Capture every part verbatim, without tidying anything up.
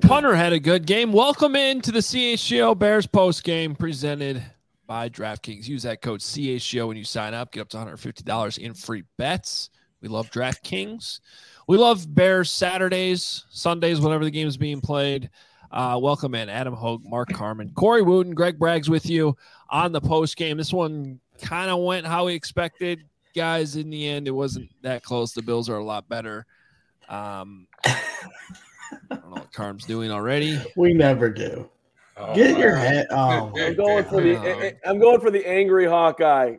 punter had a good game. Welcome into the C H G O Bears post game presented by DraftKings. Use that code C H G O when you sign up. Get up to one hundred fifty dollars in free bets. We love DraftKings. We love Bears Saturdays, Sundays, whenever the game is being played. Uh, welcome in Adam Hogue, Mark Carman, Corey Wooten, Greg Braggs with you on the post game. This one kind of went how we expected, guys. In the end, it wasn't that close. The Bills are a lot better. Um, I don't know what Carm's doing already. We never do. Oh, Get your head. Oh, I'm going for the. I'm going for the angry Hawkeye.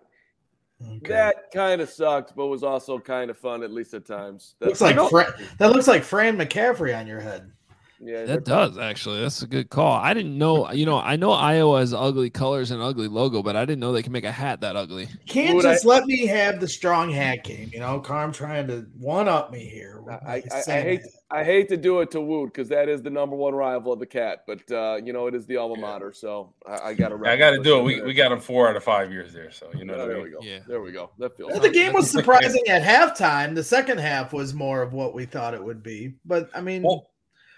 Okay. That kind of sucked, but was also kind of fun, at least at times. Looks like Fra- that looks like Fran McCaffrey on your head. Yeah, that does actually. That's a good call. I didn't know. You know, I know Iowa has ugly colors and ugly logo, but I didn't know they can make a hat that ugly. You can't Would just I, let me have the strong hat game. You know, Carm trying to one up me here. I, I, I hate. I hate to do it to Woot because that is the number one rival of the Cat, but uh, you know it is the alma mater, so I, I got to. I got to do it. We we got him four out of five years there, so you know. Oh, what there I mean? we go. Yeah, there we go. That feels. Well, the game was surprising at halftime. The second half was more of what we thought it would be, but I mean. Well,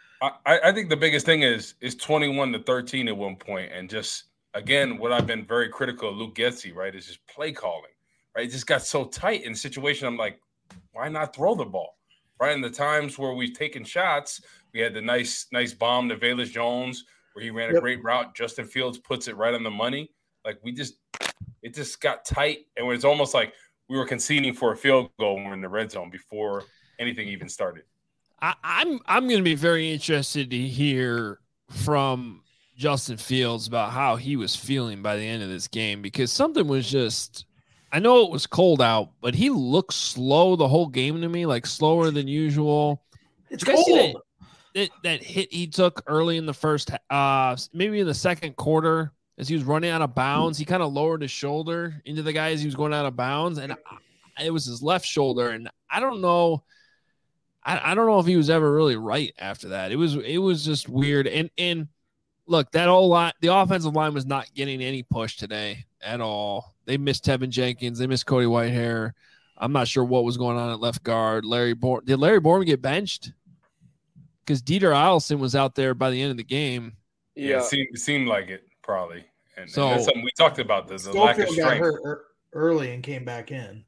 I, I think the biggest thing is is twenty-one to thirteen at one point, and just again, what I've been very critical of Luke Getsy, right, is just play calling, right? It just got so tight in the situation. I'm like, why not throw the ball, right? In the times where we've taken shots, we had the nice nice bomb to Velus Jones where he ran a yep. great route. Justin Fields puts it right on the money. Like we just, it just got tight, and it's almost like we were conceding for a field goal when we're in the red zone before anything even started. I, I'm I'm going to be very interested to hear from Justin Fields about how he was feeling by the end of this game, because something was just – I know it was cold out, but he looked slow the whole game to me, like slower than usual. It's cold. That, that, that hit he took early in the first uh, – maybe in the second quarter as he was running out of bounds, he kind of lowered his shoulder into the guy as he was going out of bounds, and it was his left shoulder, and I don't know – I, I don't know if he was ever really right after that. It was it was just weird. And and look, that whole line, the offensive line was not getting any push today at all. They missed Tevin Jenkins. They missed Cody Whitehair. I'm not sure what was going on at left guard. Larry Bourne. Did Larry Bourne get benched? Because Dieter Eielson was out there by the end of the game. Yeah, yeah it, seemed, it seemed like it probably. And, so, and that's something we talked about, the, the lack of strength. Got hurt early and came back in.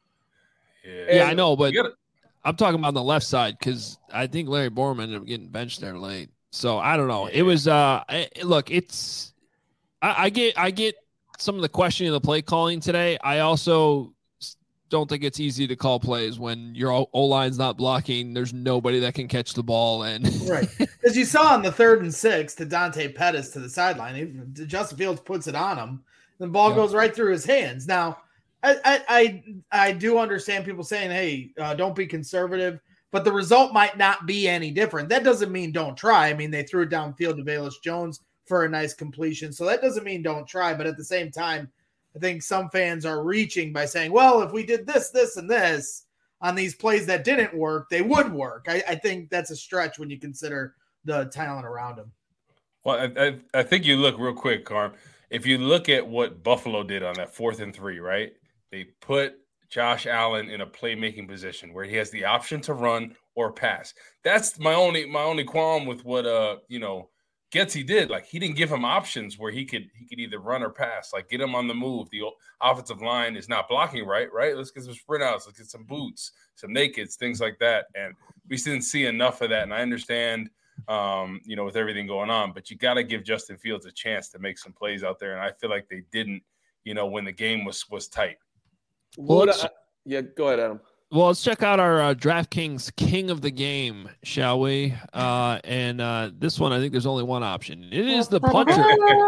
Yeah, yeah I know, but – I'm talking about the left side because I think Larry Bourne ended up getting benched there late. So I don't know. It was uh, it, look, it's I, I get I get some of the questioning of the play calling today. I also don't think it's easy to call plays when your O line's not blocking. There's nobody that can catch the ball, and right as you saw on the third and six to Dante Pettis to the sideline. Justin Fields puts it on him. The ball yep. goes right through his hands. Now. I, I I do understand people saying, hey, uh, don't be conservative, but the result might not be any different. That doesn't mean don't try. I mean, they threw it downfield to Velus Jones for a nice completion. So that doesn't mean don't try. But at the same time, I think some fans are reaching by saying, well, if we did this, this, and this on these plays that didn't work, they would work. I, I think that's a stretch when you consider the talent around him. Well, I, I, I think you look real quick, Carm. If you look at what Buffalo did on that fourth and three, right? They put Josh Allen in a playmaking position where he has the option to run or pass. That's my only my only qualm with what uh you know Getsy did. Like he didn't give him options where he could he could either run or pass. Like get him on the move. The offensive line is not blocking right. Right. Let's get some sprint outs. Let's get some boots, some nakeds, things like that. And we didn't see enough of that. And I understand um you know with everything going on, but you got to give Justin Fields a chance to make some plays out there. And I feel like they didn't. You know when the game was was tight. Well, I, yeah, go ahead, Adam. Well, let's check out our uh, DraftKings King of the Game, shall we? Uh, and uh, this one, I think there's only one option. It is the punter,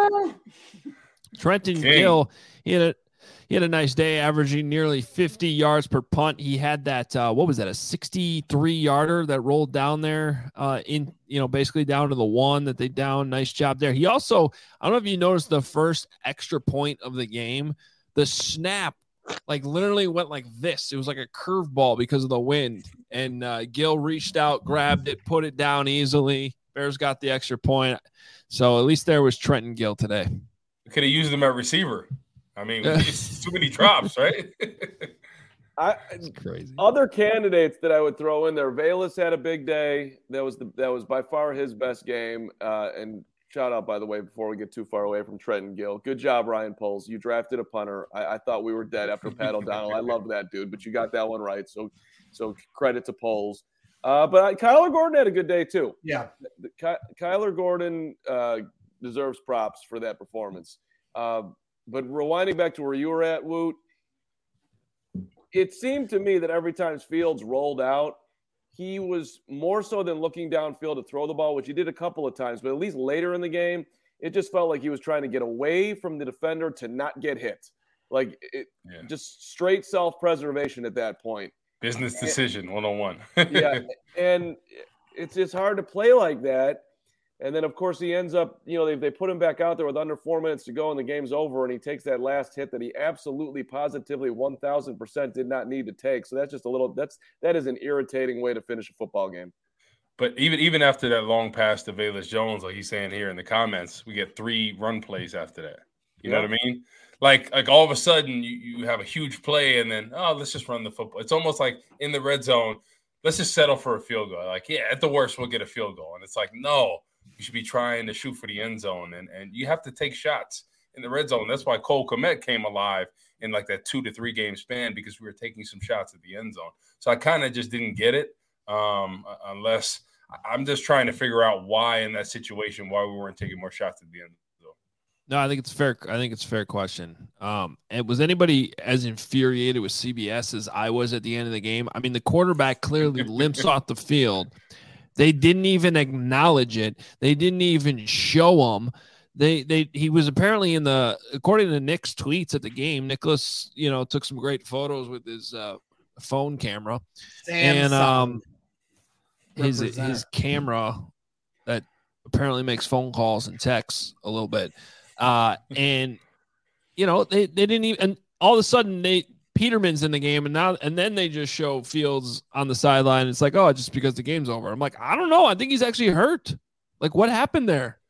Trenton King. Gill. He had a he had a nice day, averaging nearly fifty yards per punt. He had that uh, what was that? A sixty-three yarder that rolled down there, uh, in you know basically down to the one that they down. Nice job there. He also, I don't know if you noticed the first extra point of the game, the snap. Like literally went like this. It was like a curveball because of the wind. And uh, Gill reached out, grabbed it, put it down easily. Bears got the extra point. So at least there was Trenton Gill today. We could have used him at receiver. I mean, too many drops, right? I, It's crazy. Other candidates that I would throw in there, Velus had a big day. That was the that was by far his best game. Uh, and shout out, by the way, before we get too far away from Trenton Gill. Good job, Ryan Poles. You drafted a punter. I, I thought we were dead after Pat O'Donnell. I love that dude, but you got that one right. So so credit to Poles. Uh, but I, Kyler Gordon had a good day too. Yeah, the, Ky, Kyler Gordon uh, deserves props for that performance. Uh, but rewinding back to where you were at, Woot, it seemed to me that every time Fields rolled out, he was more so than looking downfield to throw the ball, which he did a couple of times, but at least later in the game, it just felt like he was trying to get away from the defender to not get hit. Like it, yeah. just straight self-preservation at that point. Business decision and, one oh one. Yeah, and it's it's hard to play like that. And then, of course, he ends up, you know, they, they put him back out there with under four minutes to go and the game's over, and he takes that last hit that he absolutely, positively, one thousand percent did not need to take. So that's just a little – that's that is an irritating way to finish a football game. But even even after that long pass to Velus Jones, like he's saying here in the comments, we get three run plays after that. You yeah. know what I mean? Like, like all of a sudden you, you have a huge play and then, oh, let's just run the football. It's almost like in the red zone, let's just settle for a field goal. Like, yeah, at the worst, we'll get a field goal. And it's like, no. You should be trying to shoot for the end zone, and, and you have to take shots in the red zone. That's why Cole Kmet came alive in like that two to three game span, because we were taking some shots at the end zone. So I kind of just didn't get it, um, unless I'm just trying to figure out why in that situation, why we weren't taking more shots at the end zone. No, I think it's fair. I think it's a fair question. Um, and was anybody as infuriated with C B S as I was at the end of the game? I mean, the quarterback clearly limps off the field. They didn't even acknowledge it. They didn't even show him. They they he was apparently in the, according to Nick's tweets at the game, Nicholas, you know, took some great photos with his uh, phone camera. Samsung. And um his Represent. his camera that apparently makes phone calls and texts a little bit. Uh and you know, they, they didn't even, and all of a sudden they Peterman's in the game, and now and then they just show Fields on the sideline. It's like, oh, just because the game's over. I'm like, I don't know. I think he's actually hurt. Like, what happened there?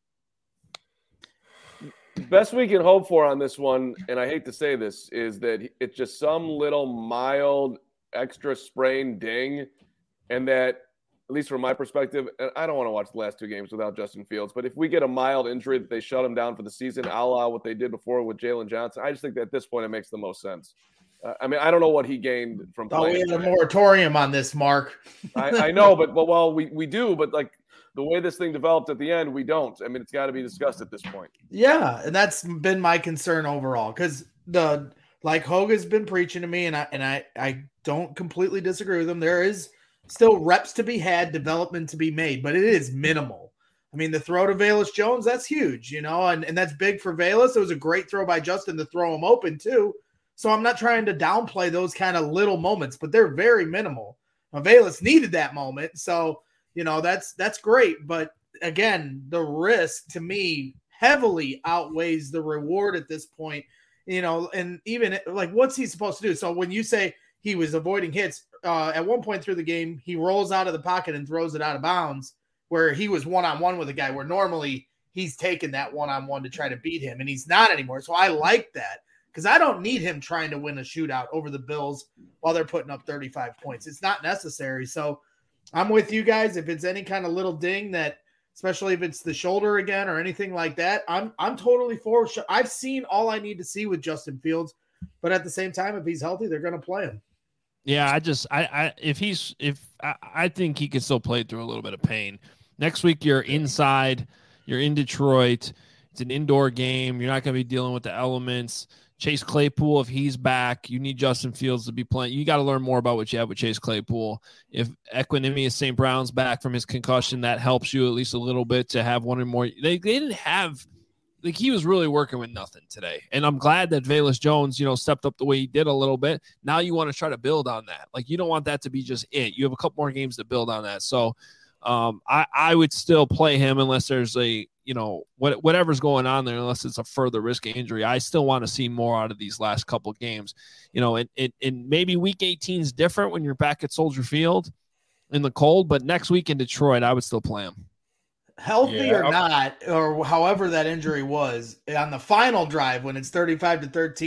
Best we can hope for on this one, and I hate to say this, is that it's just some little mild extra sprain ding, and that, at least from my perspective, and I don't want to watch the last two games without Justin Fields, but if we get a mild injury that they shut him down for the season, a la what they did before with Jalen Johnson, I just think that at this point it makes the most sense. Uh, I mean, I don't know what he gained from playing. Oh, we had a moratorium on this, Mark. I, I know, but, but well, we, we do, but like the way this thing developed at the end, we don't. I mean, it's got to be discussed at this point. Yeah, and that's been my concern overall, because the like Hogue has been preaching to me, and I and I I don't completely disagree with him. There is still reps to be had, development to be made, but it is minimal. I mean, the throw to Velus Jones, that's huge, you know, and, and that's big for Velus. It was a great throw by Justin to throw him open too. So I'm not trying to downplay those kind of little moments, but they're very minimal. Now, Velus needed that moment. So, you know, that's that's great. But again, the risk to me heavily outweighs the reward at this point, you know, and even like, what's he supposed to do? So when you say he was avoiding hits, uh, at one point through the game, he rolls out of the pocket and throws it out of bounds, where he was one-on-one with a guy where normally he's taken that one-on-one to try to beat him, and he's not anymore. So I like that, because I don't need him trying to win a shootout over the Bills while they're putting up thirty-five points. It's not necessary. So I'm with you guys. If it's any kind of little ding that, especially if it's the shoulder again or anything like that, I'm I'm totally for. I've seen all I need to see with Justin Fields, but at the same time, if he's healthy, they're going to play him. Yeah, I just I, I if he's if I, I think he can still play through a little bit of pain. Next week you're inside, you're in Detroit. It's an indoor game. You're not going to be dealing with the elements. Chase Claypool, if he's back, you need Justin Fields to be playing. You got to learn more about what you have with Chase Claypool. If Equanimeous Saint Brown's back from his concussion, that helps you at least a little bit to have one or more. They they didn't have like he was really working with nothing today. And I'm glad that Velus Jones, you know, stepped up the way he did a little bit. Now you want to try to build on that. Like, you don't want that to be just it. You have a couple more games to build on that. So um, I, I would still play him unless there's a, you know, what, whatever's going on there, unless it's a further risky injury. I still want to see more out of these last couple games, you know, and, and, and maybe week eighteen is different when you're back at Soldier Field in the cold, but next week in Detroit, I would still play him. Healthy yeah. or not, or however that injury was, on the final drive when it's thirty-five to thirteen,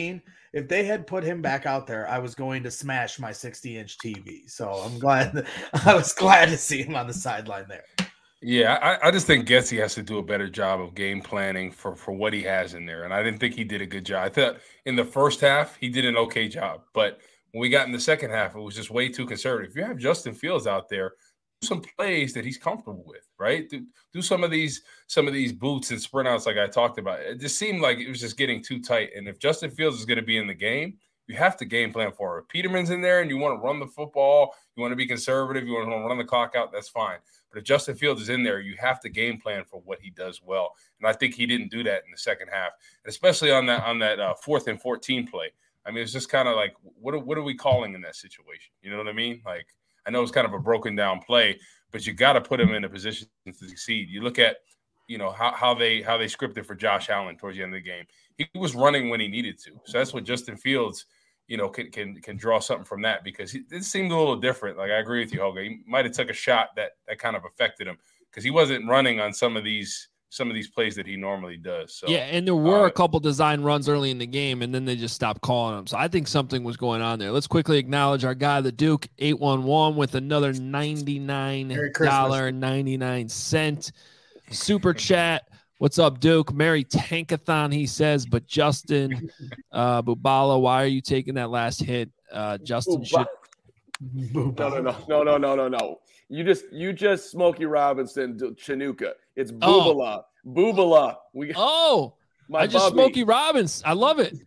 if they had put him back out there, I was going to smash my sixty inch T V. So I'm glad that, I was glad to see him on the sideline there. Yeah, I, I just think Getsy has to do a better job of game planning for, for what he has in there. And I didn't think he did a good job. I thought in the first half, he did an okay job. But when we got in the second half, it was just way too conservative. If you have Justin Fields out there, do some plays that he's comfortable with, right? Do, do some of these some of these boots and sprint outs like I talked about. It just seemed like it was just getting too tight. And if Justin Fields is going to be in the game, you have to game plan for it. If Peterman's in there and you want to run the football, you want to be conservative, you want to run the clock out, that's fine. But if Justin Fields is in there, you have to game plan for what he does well. And I think he didn't do that in the second half, and especially on that on that uh, fourth and fourteen play. I mean, it's just kind of like, what are, what are we calling in that situation? You know what I mean? Like, I know it's kind of a broken down play, but you got to put him in a position to succeed. You look at, you know, how, how they how they scripted for Josh Allen towards the end of the game. He was running when he needed to. So that's what Justin Fields, you know, can can can draw something from that, because he, it seemed a little different. Like, I agree with you, Hoga. He might have took a shot that that kind of affected him, because he wasn't running on some of these some of these plays that he normally does. So yeah, and there were uh, a couple design runs early in the game, and then they just stopped calling them. So I think something was going on there. Let's quickly acknowledge our guy, the Duke eight one one, with another ninety-nine dollars and ninety-nine cents super chat. What's up, Duke? Merry Tankathon, he says. But Justin uh, Bubala, why are you taking that last hit? Uh, Justin should. No, no, no, no, no, no, no, no. You just, you just Smokey Robinson, Chinooka. It's Boobala, oh. Boobala. We. Oh, my I just Bubby. Smokey Robinson. I love it.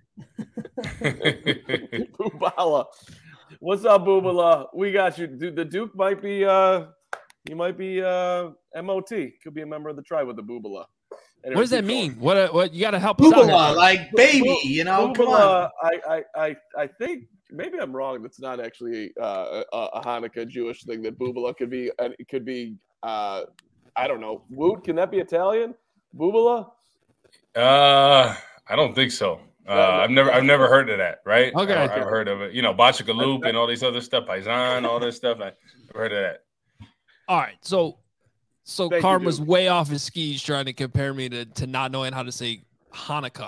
Boobala. What's up, Boobala? We got you. Dude, the Duke might be. Uh, he might be uh, M O T. Could be a member of the tribe with the Boobala. Anyway, what does that mean? What? Uh, what you got to help us out here. Like baby, you know. Boobala, come on. I, I, I, I think maybe I'm wrong. That's not actually uh, a, a Hanukkah Jewish thing. That Boobala could be. Uh, it could be. Uh, I don't know. Woot? Can that be Italian? Boobala? Uh, I don't think so. Uh, I've never, I've never heard of that. Right? Okay, I, I've heard of it. You know, Bachika Loop and all these other stuff, Paisan, all this stuff. I've heard of that. All right, so. So Thank Carm you, was way off his skis trying to compare me to, to not knowing how to say Hanukkah.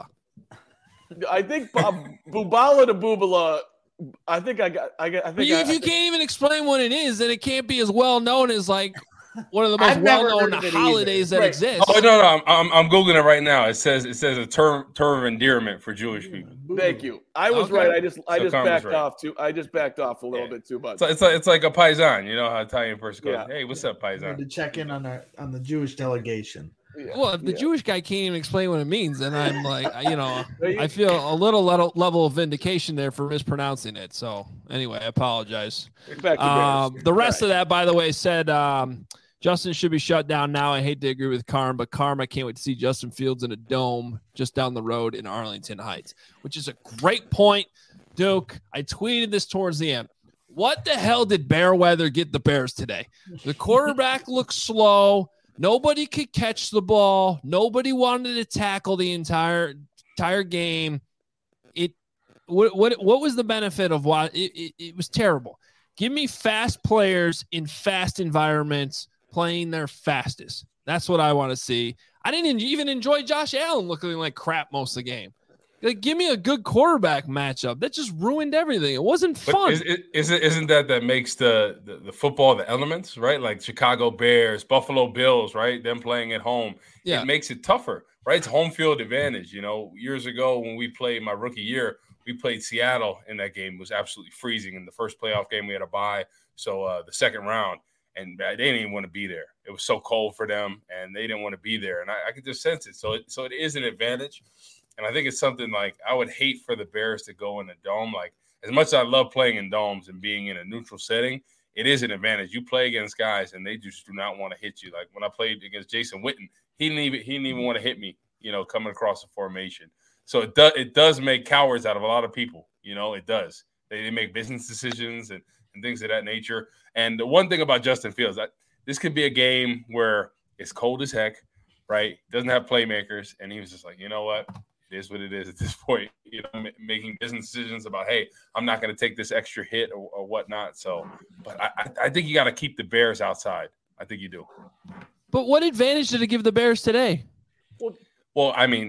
I think Bob, Boobala to Boobala. I think I got. I got. I think. But you, I, if I you think, can't even explain what it is, then it can't be as well known as like one of the most I've never well known heard of it holidays either. that Right. exist. Oh no, no, I'm, I'm I'm googling it right now. It says it says a term term of endearment for Jewish people. Thank you. I was Okay. right. I just I So just Carm was backed right. off too. I just backed off a little Yeah. bit too much. So it's like it's like a paisan. You know how Italian person goes, Yeah. "Hey, what's up, I had paisan?" to check in on our on the Jewish delegation. Yeah. Well, if the Yeah. Jewish guy can't even explain what it means, then I'm like, you know, I feel a little level, level of vindication there for mispronouncing it. So anyway, I apologize. Back to Um, Bears. the rest Right. of that, by the way, said um, Justin should be shut down now. I hate to agree with Carm, but Carm, I can't wait to see Justin Fields in a dome just down the road in Arlington Heights, which is a great point, Duke. I tweeted this towards the end. What the hell did Bearweather get the Bears today? The quarterback looked slow. Nobody could catch the ball. Nobody wanted to tackle the entire entire game. It what what what was the benefit of why it, it, it was terrible? Give me fast players in fast environments playing their fastest. That's what I want to see. I didn't even enjoy Josh Allen looking like crap most of the game. Like, give me a good quarterback matchup. That just ruined everything. It wasn't But fun. is, is it isn't that that makes the, the the football the elements, right? Like Chicago Bears, Buffalo Bills, right? Them playing at home. Yeah. It makes it tougher, right? It's home field advantage. You know, years ago when we played my rookie year, we played Seattle in that game. It was absolutely freezing. In the first playoff game, we had a bye. So uh, the second round, and they didn't even want to be there. It was so cold for them, and they didn't want to be there. And I, I could just sense it. So it, so it is an advantage. And I think it's something like I would hate for the Bears to go in a dome. Like, as much as I love playing in domes and being in a neutral setting, it is an advantage. You play against guys, and they just do not want to hit you. Like when I played against Jason Witten, he didn't even he didn't even want to hit me, you know, coming across the formation. So it does it does make cowards out of a lot of people. You know, it does. They, they make business decisions and, and things of that nature. And the one thing about Justin Fields, I, this could be a game where it's cold as heck, right? Doesn't have playmakers, and he was just like, you know what? It is what it is at this point, you know, m- making business decisions about, hey, I'm not going to take this extra hit or, or whatnot. So, but I, I, I think you got to keep the Bears outside. I think you do. But what advantage did it give the Bears today? Well, I mean,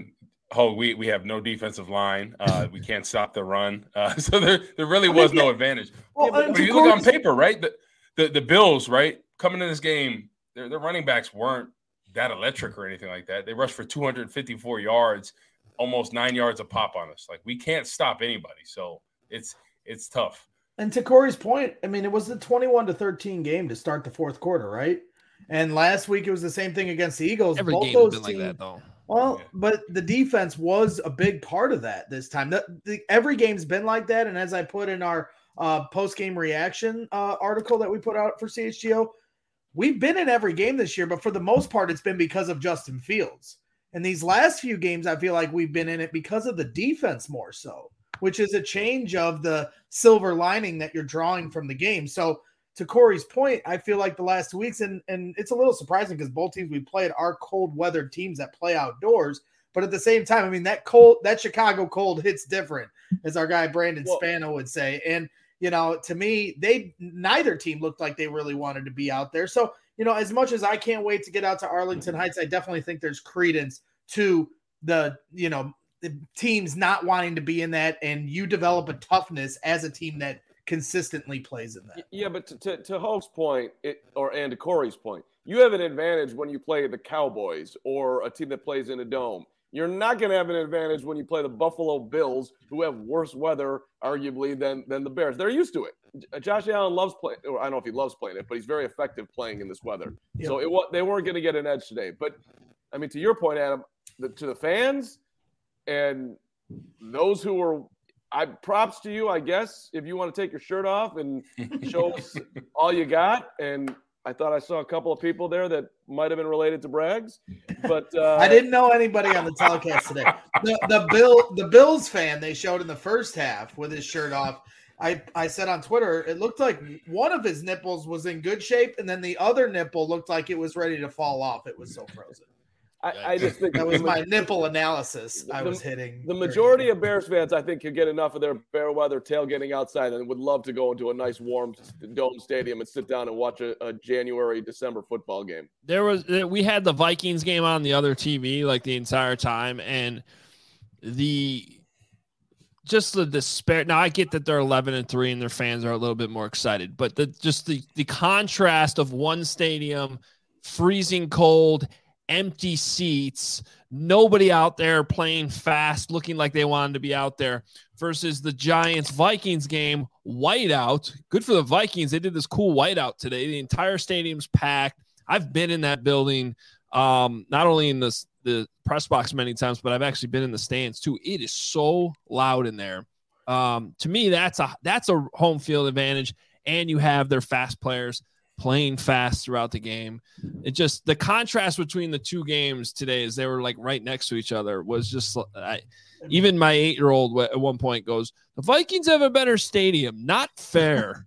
oh, we we have no defensive line. Uh, we can't stop the run. Uh, so there there really was no advantage. Well, yeah, but, but you look on paper, right? The, the the Bills, right, coming in this game, their their running backs weren't that electric or anything like that. They rushed for two hundred fifty-four yards, almost nine yards a pop on us. Like, we can't stop anybody. So it's it's tough. And to Corey's point, I mean, it was the twenty-one to thirteen game to start the fourth quarter, right? And last week it was the same thing against the Eagles. Every Both game those has been teams, like that, though. Well, Yeah. but the defense was a big part of that this time. The, the, every game's been like that. And as I put in our uh, post-game reaction uh, article that we put out for C H G O, we've been in every game this year, but for the most part, it's been because of Justin Fields. And these last few games, I feel like we've been in it because of the defense more so, which is a change of the silver lining that you're drawing from the game. So to Corey's point, I feel like the last two weeks, and, and it's a little surprising because both teams we played are cold weather teams that play outdoors. But at the same time, I mean, that cold, that Chicago cold hits different, as our guy Brandon Well, Spano would say. And, you know, to me, they neither team looked like they really wanted to be out there. So, you know, as much as I can't wait to get out to Arlington Heights, I definitely think there's credence to the, you know, the teams not wanting to be in that, and you develop a toughness as a team that consistently plays in that. Yeah, but to, to, to Hoke's point, it, or and to Corey's point, you have an advantage when you play the Cowboys or a team that plays in a dome. You're not going to have an advantage when you play the Buffalo Bills, who have worse weather, arguably, than than the Bears. They're used to it. Josh Allen loves playing, or I don't know if he loves playing it, but he's very effective playing in this weather. Yep. So it was, they weren't going to get an edge today. But, I mean, to your point, Adam, the, to the fans and those who were – I props to you, I guess, if you want to take your shirt off and show us all you got. And I thought I saw a couple of people there that might have been related to Braggs, but uh, I didn't know anybody on the telecast today. The, the Bill, the Bills fan they showed in the first half with his shirt off. I, I said on Twitter, it looked like one of his nipples was in good shape, and then the other nipple looked like it was ready to fall off. It was so frozen. I, I just think That was the, my nipple analysis I the- was hitting. the majority of Bears fans, I think, could get enough of their fair weather tailgating outside and would love to go into a nice warm dome stadium and sit down and watch a, a January, December football game. There was we had the Vikings game on the other T V like the entire time, and the just the despair. Now I get that they're eleven and three and their fans are a little bit more excited, but the just the the contrast of one stadium, freezing cold, empty seats, nobody out there playing fast, looking like they wanted to be out there, versus the Giants Vikings game, whiteout. Good for the Vikings. They did this cool whiteout today. The entire stadium's packed. I've been in that building, um, not only in the, the press box many times, but I've actually been in the stands too. It is so loud in there. Um, to me, that's a that's a home field advantage, and you have their fast players playing fast throughout the game. It just, the contrast between the two games today, as they were like right next to each other, was just, I, even my eight-year-old at one point goes, the Vikings have a better stadium. Not fair.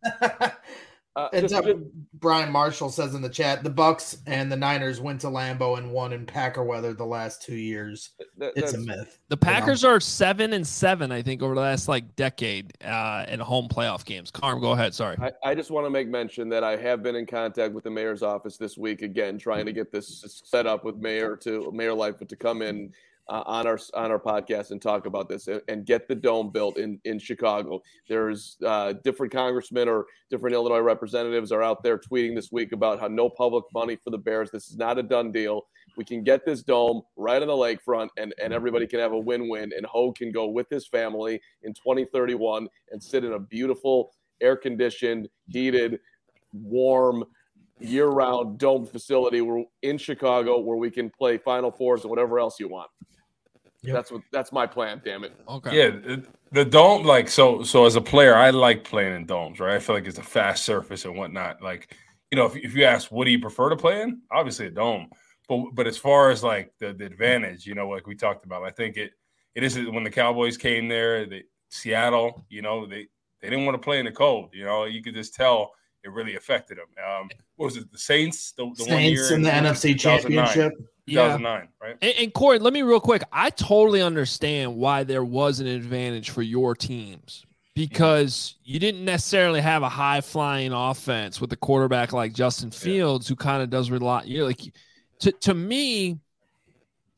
Uh, And just- uh, Brian Marshall says in the chat, the Bucks and the Niners went to Lambeau and won in Packer weather the last two years. that- It's a that's- myth. The Packers are seven and seven, I think, over the last like decade uh, in home playoff games. Carm, go ahead. Sorry. I, I just want to make mention that I have been in contact with the mayor's office this week again, trying to get this set up with Mayor to Mayor Lightfoot to come in uh, on our on our podcast and talk about this and, and get the dome built in in Chicago. There's uh, different congressmen or different Illinois representatives are out there tweeting this week about how no public money for the Bears. This is not a done deal. We can get this dome right on the lakefront, and, and everybody can have a win-win. And Hogue can go with his family in twenty thirty-one and sit in a beautiful, air-conditioned, heated, warm, year-round dome facility where, in Chicago, where we can play Final Fours and whatever else you want. Yep. That's what that's my plan. Damn it. Okay. Yeah, the, the dome, like so. So as a player, I like playing in domes, right? I feel like it's a fast surface and whatnot. Like, you know, if, if you ask, what do you prefer to play in? Obviously a dome. But but as far as like the, the advantage, you know, like we talked about, I think it it is when the Cowboys came there, the Seattle, you know, they they didn't want to play in the cold. You know, you could just tell it really affected them. Um, what was it? The Saints, the, the one year Saints in the N F C two thousand nine Championship. two thousand nine, right? And, and Corey, let me real quick. I totally understand why there was an advantage for your teams, because you didn't necessarily have a high flying offense with a quarterback like Justin Fields, who kind of does rely. You're like, to to me,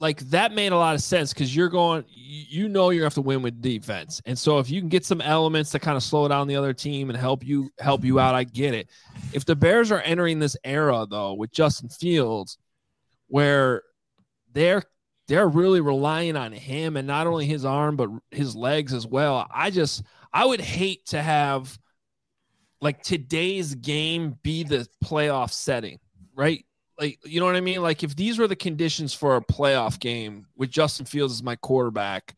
like that made a lot of sense because you're going, you know, you're gonna have to win with defense, and so if you can get some elements to kind of slow down the other team and help you help you out, I get it. If the Bears are entering this era though with Justin Fields, where they're they're really relying on him and not only his arm but his legs as well, I just I would hate to have like today's game be the playoff setting, right? Like, you know what I mean? Like if these were the conditions for a playoff game with Justin Fields as my quarterback,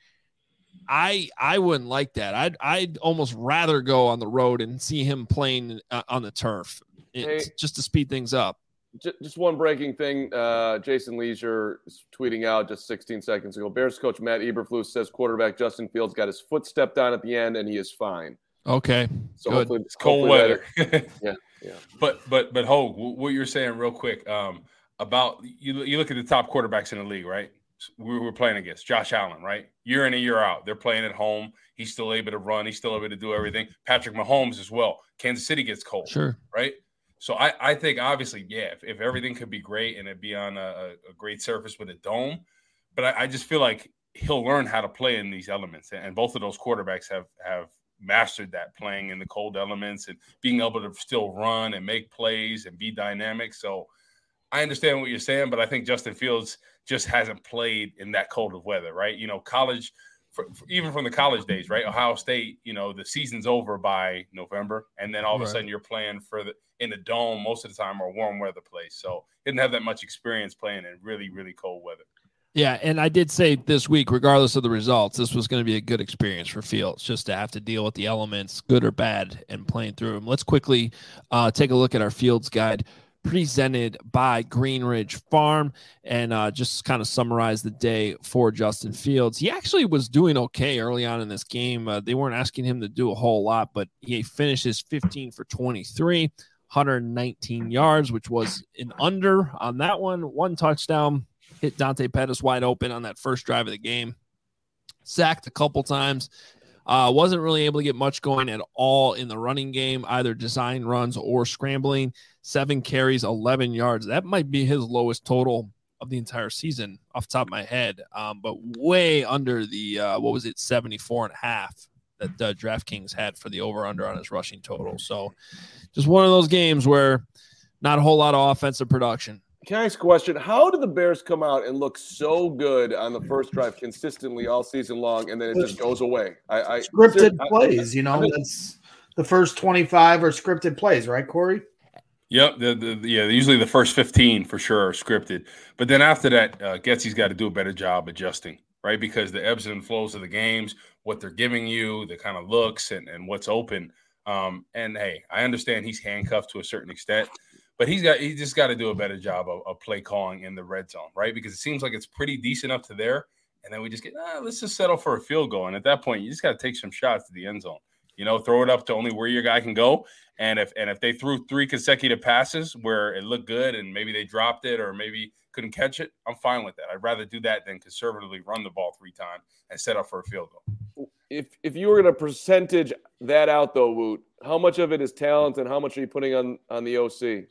I I wouldn't like that. I'd I'd almost rather go on the road and see him playing uh, on the turf hey, just to speed things up. Just one breaking thing. Uh, Jason Leisure is tweeting out just sixteen seconds ago. Bears coach Matt Eberflus says quarterback Justin Fields got his foot stepped on at the end and he is fine. Okay. So good. hopefully it's cold weather. yeah. Yeah. But but but Hogue, what you're saying real quick um, about you you look at the top quarterbacks in the league, right? We were playing against Josh Allen, right? Year in and year out, they're playing at home. He's still able to run. He's still able to do everything. Patrick Mahomes as well. Kansas City gets cold, sure, right? So I, I think obviously, yeah, if, if everything could be great and it'd be on a, a great surface with a dome, but I, I just feel like he'll learn how to play in these elements, and both of those quarterbacks have have mastered that, playing in the cold elements and being able to still run and make plays and be dynamic. So I understand what you're saying, but I think Justin Fields just hasn't played in that cold of weather, right? You know, college, for, for, even from the college days, right? Ohio State, you know, the season's over by November, and then all of a right. sudden you're playing for the in the dome most of the time or warm weather place. So didn't have that much experience playing in really, really cold weather. Yeah, and I did say this week, regardless of the results, this was going to be a good experience for Fields, just to have to deal with the elements, good or bad, and playing through them. Let's quickly uh, take a look at our Fields guide presented by Greenridge Farm and uh, just kind of summarize the day for Justin Fields. He actually was doing okay early on in this game. Uh, they weren't asking him to do a whole lot, but he finishes fifteen for twenty-three, one hundred nineteen yards, which was an under on that one. One touchdown. Hit Dante Pettis wide open on that first drive of the game. Sacked a couple times. Uh, wasn't really able to get much going at all in the running game, either design runs or scrambling. Seven carries, eleven yards. That might be his lowest total of the entire season off the top of my head, um, but way under the, uh, what was it, seventy-four and a half that uh, DraftKings had for the over-under on his rushing total. So just one of those games where not a whole lot of offensive production. Can I ask a question? How did the Bears come out and look so good on the first drive consistently all season long, and then it just goes away? I, I scripted I, plays, you know, I, that's the first twenty-five are scripted plays, right, Corey? Yep. The, the, yeah, usually the first fifteen for sure are scripted. But then after that, uh, Getsy's got to do a better job adjusting, right? Because the ebbs and flows of the games, what they're giving you, the kind of looks and, and what's open. Um, and, hey, I understand he's handcuffed to a certain extent. But he's got he just got to do a better job of, of play calling in the red zone, right? Because it seems like it's pretty decent up to there, and then we just get ah, let's just settle for a field goal. And at that point, you just got to take some shots to the end zone. You know, throw it up to only where your guy can go. And if and if they threw three consecutive passes where it looked good and maybe they dropped it or maybe couldn't catch it, I'm fine with that. I'd rather do that than conservatively run the ball three times and set up for a field goal. If if you were going to percentage that out though, Woot, how much of it is talent and how much are you putting on on the O C?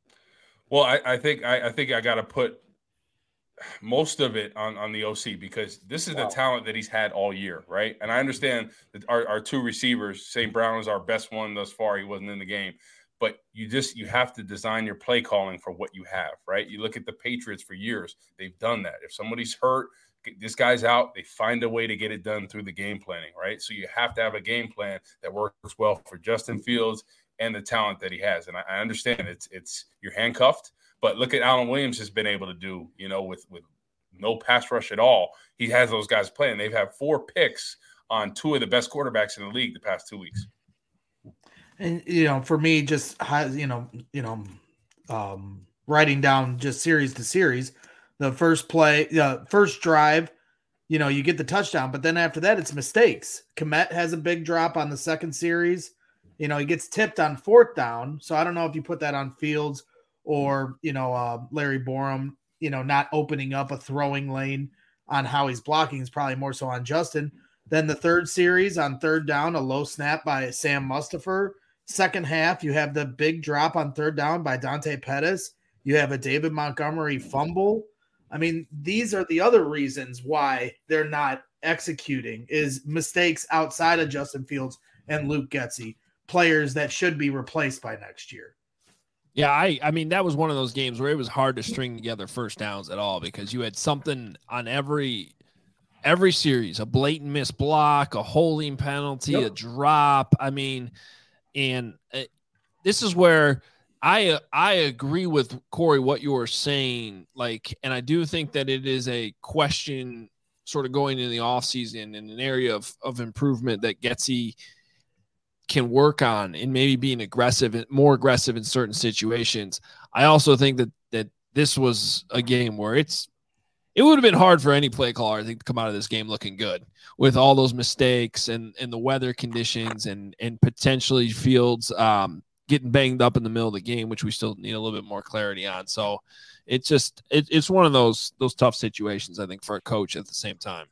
Well, I, I think I, I think I got to put most of it on, on the O C because this is wow. the talent that he's had all year, right? And I understand that our, our two receivers, Saint Brown is our best one thus far. He wasn't in the game. But you just you have to design your play calling for what you have, right? You look at the Patriots for years. They've done that. If somebody's hurt, this guy's out, they find a way to get it done through the game planning, right? So you have to have a game plan that works well for Justin Fields and the talent that he has. And I, I understand it's it's you're handcuffed, but look at Alan Williams has been able to do, you know, with with no pass rush at all. He has those guys playing. They've had four picks on two of the best quarterbacks in the league the past two weeks. And you know, for me, just you know, you know, um, writing down just series to series, the first play, the uh, first drive, you know, you get the touchdown, but then after that, it's mistakes. Kmet has a big drop on the second series. You know, he gets tipped on fourth down. So I don't know if you put that on Fields or, you know, uh, Larry Borum, you know, not opening up a throwing lane on how he's blocking is probably more so on Justin. Then the third series on third down, a low snap by Sam Mustipher. Second half, you have the big drop on third down by Dante Pettis. You have a David Montgomery fumble. I mean, these are the other reasons why they're not executing is mistakes outside of Justin Fields and Luke Getsy, players that should be replaced by next year. Yeah, I, I mean, that was one of those games where it was hard to string together first downs at all because you had something on every every series, a blatant missed block, a holding penalty, yep. a drop. I mean, and uh, this is where I uh, I agree with Corey what you were saying, like, and I do think that it is a question sort of going into the offseason in an area of, of improvement that Getsy can work on and maybe being aggressive and more aggressive in certain situations. I also think that that this was a game where it's it would have been hard for any play caller, I think, to come out of this game looking good with all those mistakes and, and the weather conditions and and potentially Fields um, getting banged up in the middle of the game, which we still need a little bit more clarity on. So it's just it, it's one of those those tough situations, I think, for a coach at the same time.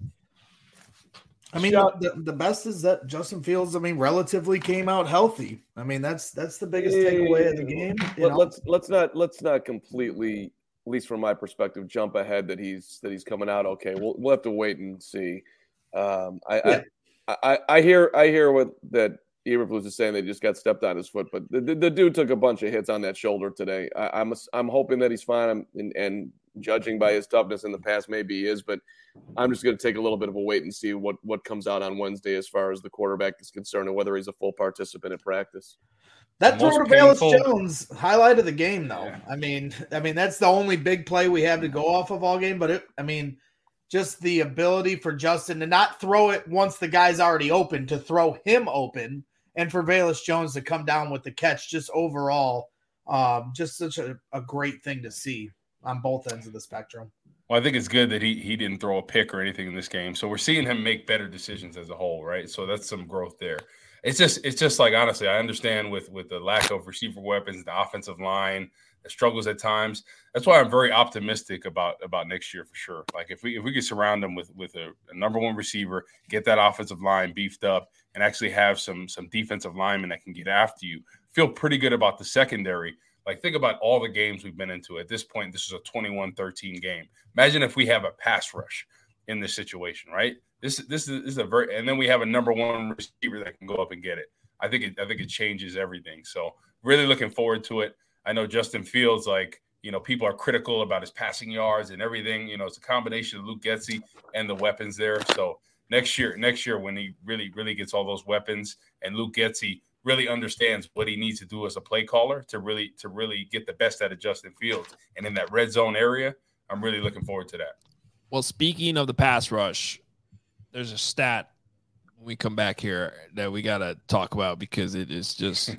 I mean, the, the best is that Justin Fields, I mean, relatively came out healthy. I mean, that's that's the biggest takeaway of the game. Let, let's let's not let's not completely, at least from my perspective, jump ahead that he's that he's coming out okay. We'll we'll have to wait and see. Um, I, yeah. I, I I hear I hear what that Eberflus is saying. They just got stepped on his foot, but the, the, the dude took a bunch of hits on that shoulder today. I, I'm I'm hoping that he's fine. I'm, and, and judging by his toughness in the past, maybe he is, but I'm just going to take a little bit of a wait and see what, what comes out on Wednesday as far as the quarterback is concerned and whether he's a full participant in practice. That throw to Velus Jones highlighted the game, though. Yeah. I mean, I mean that's the only big play we have to go off of all game. But it, I mean, just the ability for Justin to not throw it once the guy's already open, to throw him open, and for Velus Jones to come down with the catch. Just overall, um, just such a, a great thing to see on both ends of the spectrum. Well, I think it's good that he he didn't throw a pick or anything in this game. So we're seeing him make better decisions as a whole, right? So that's some growth there. It's just it's just like, honestly, I understand with with the lack of receiver weapons, the offensive line, the struggles at times. That's why I'm very optimistic about about next year for sure. Like if we if we could surround them with with a, a number one receiver, get that offensive line beefed up, and actually have some some defensive linemen that can get after you, feel pretty good about the secondary. Like, think about all the games we've been into. At this point, this is a twenty-one thirteen game. Imagine if we have a pass rush in this situation, right? This, this, is, this is a very – and then we have a number one receiver that can go up and get it. I think it, I think it changes everything. So, really looking forward to it. I know Justin Fields, like, you know, people are critical about his passing yards and everything. You know, it's a combination of Luke Getsy and the weapons there. So, next year, next year when he really, really gets all those weapons and Luke Getsy – really understands what he needs to do as a play caller to really to really get the best out of Justin Fields. And in that red zone area, I'm really looking forward to that. Well, speaking of the pass rush, there's a stat when we come back here that we got to talk about because it is just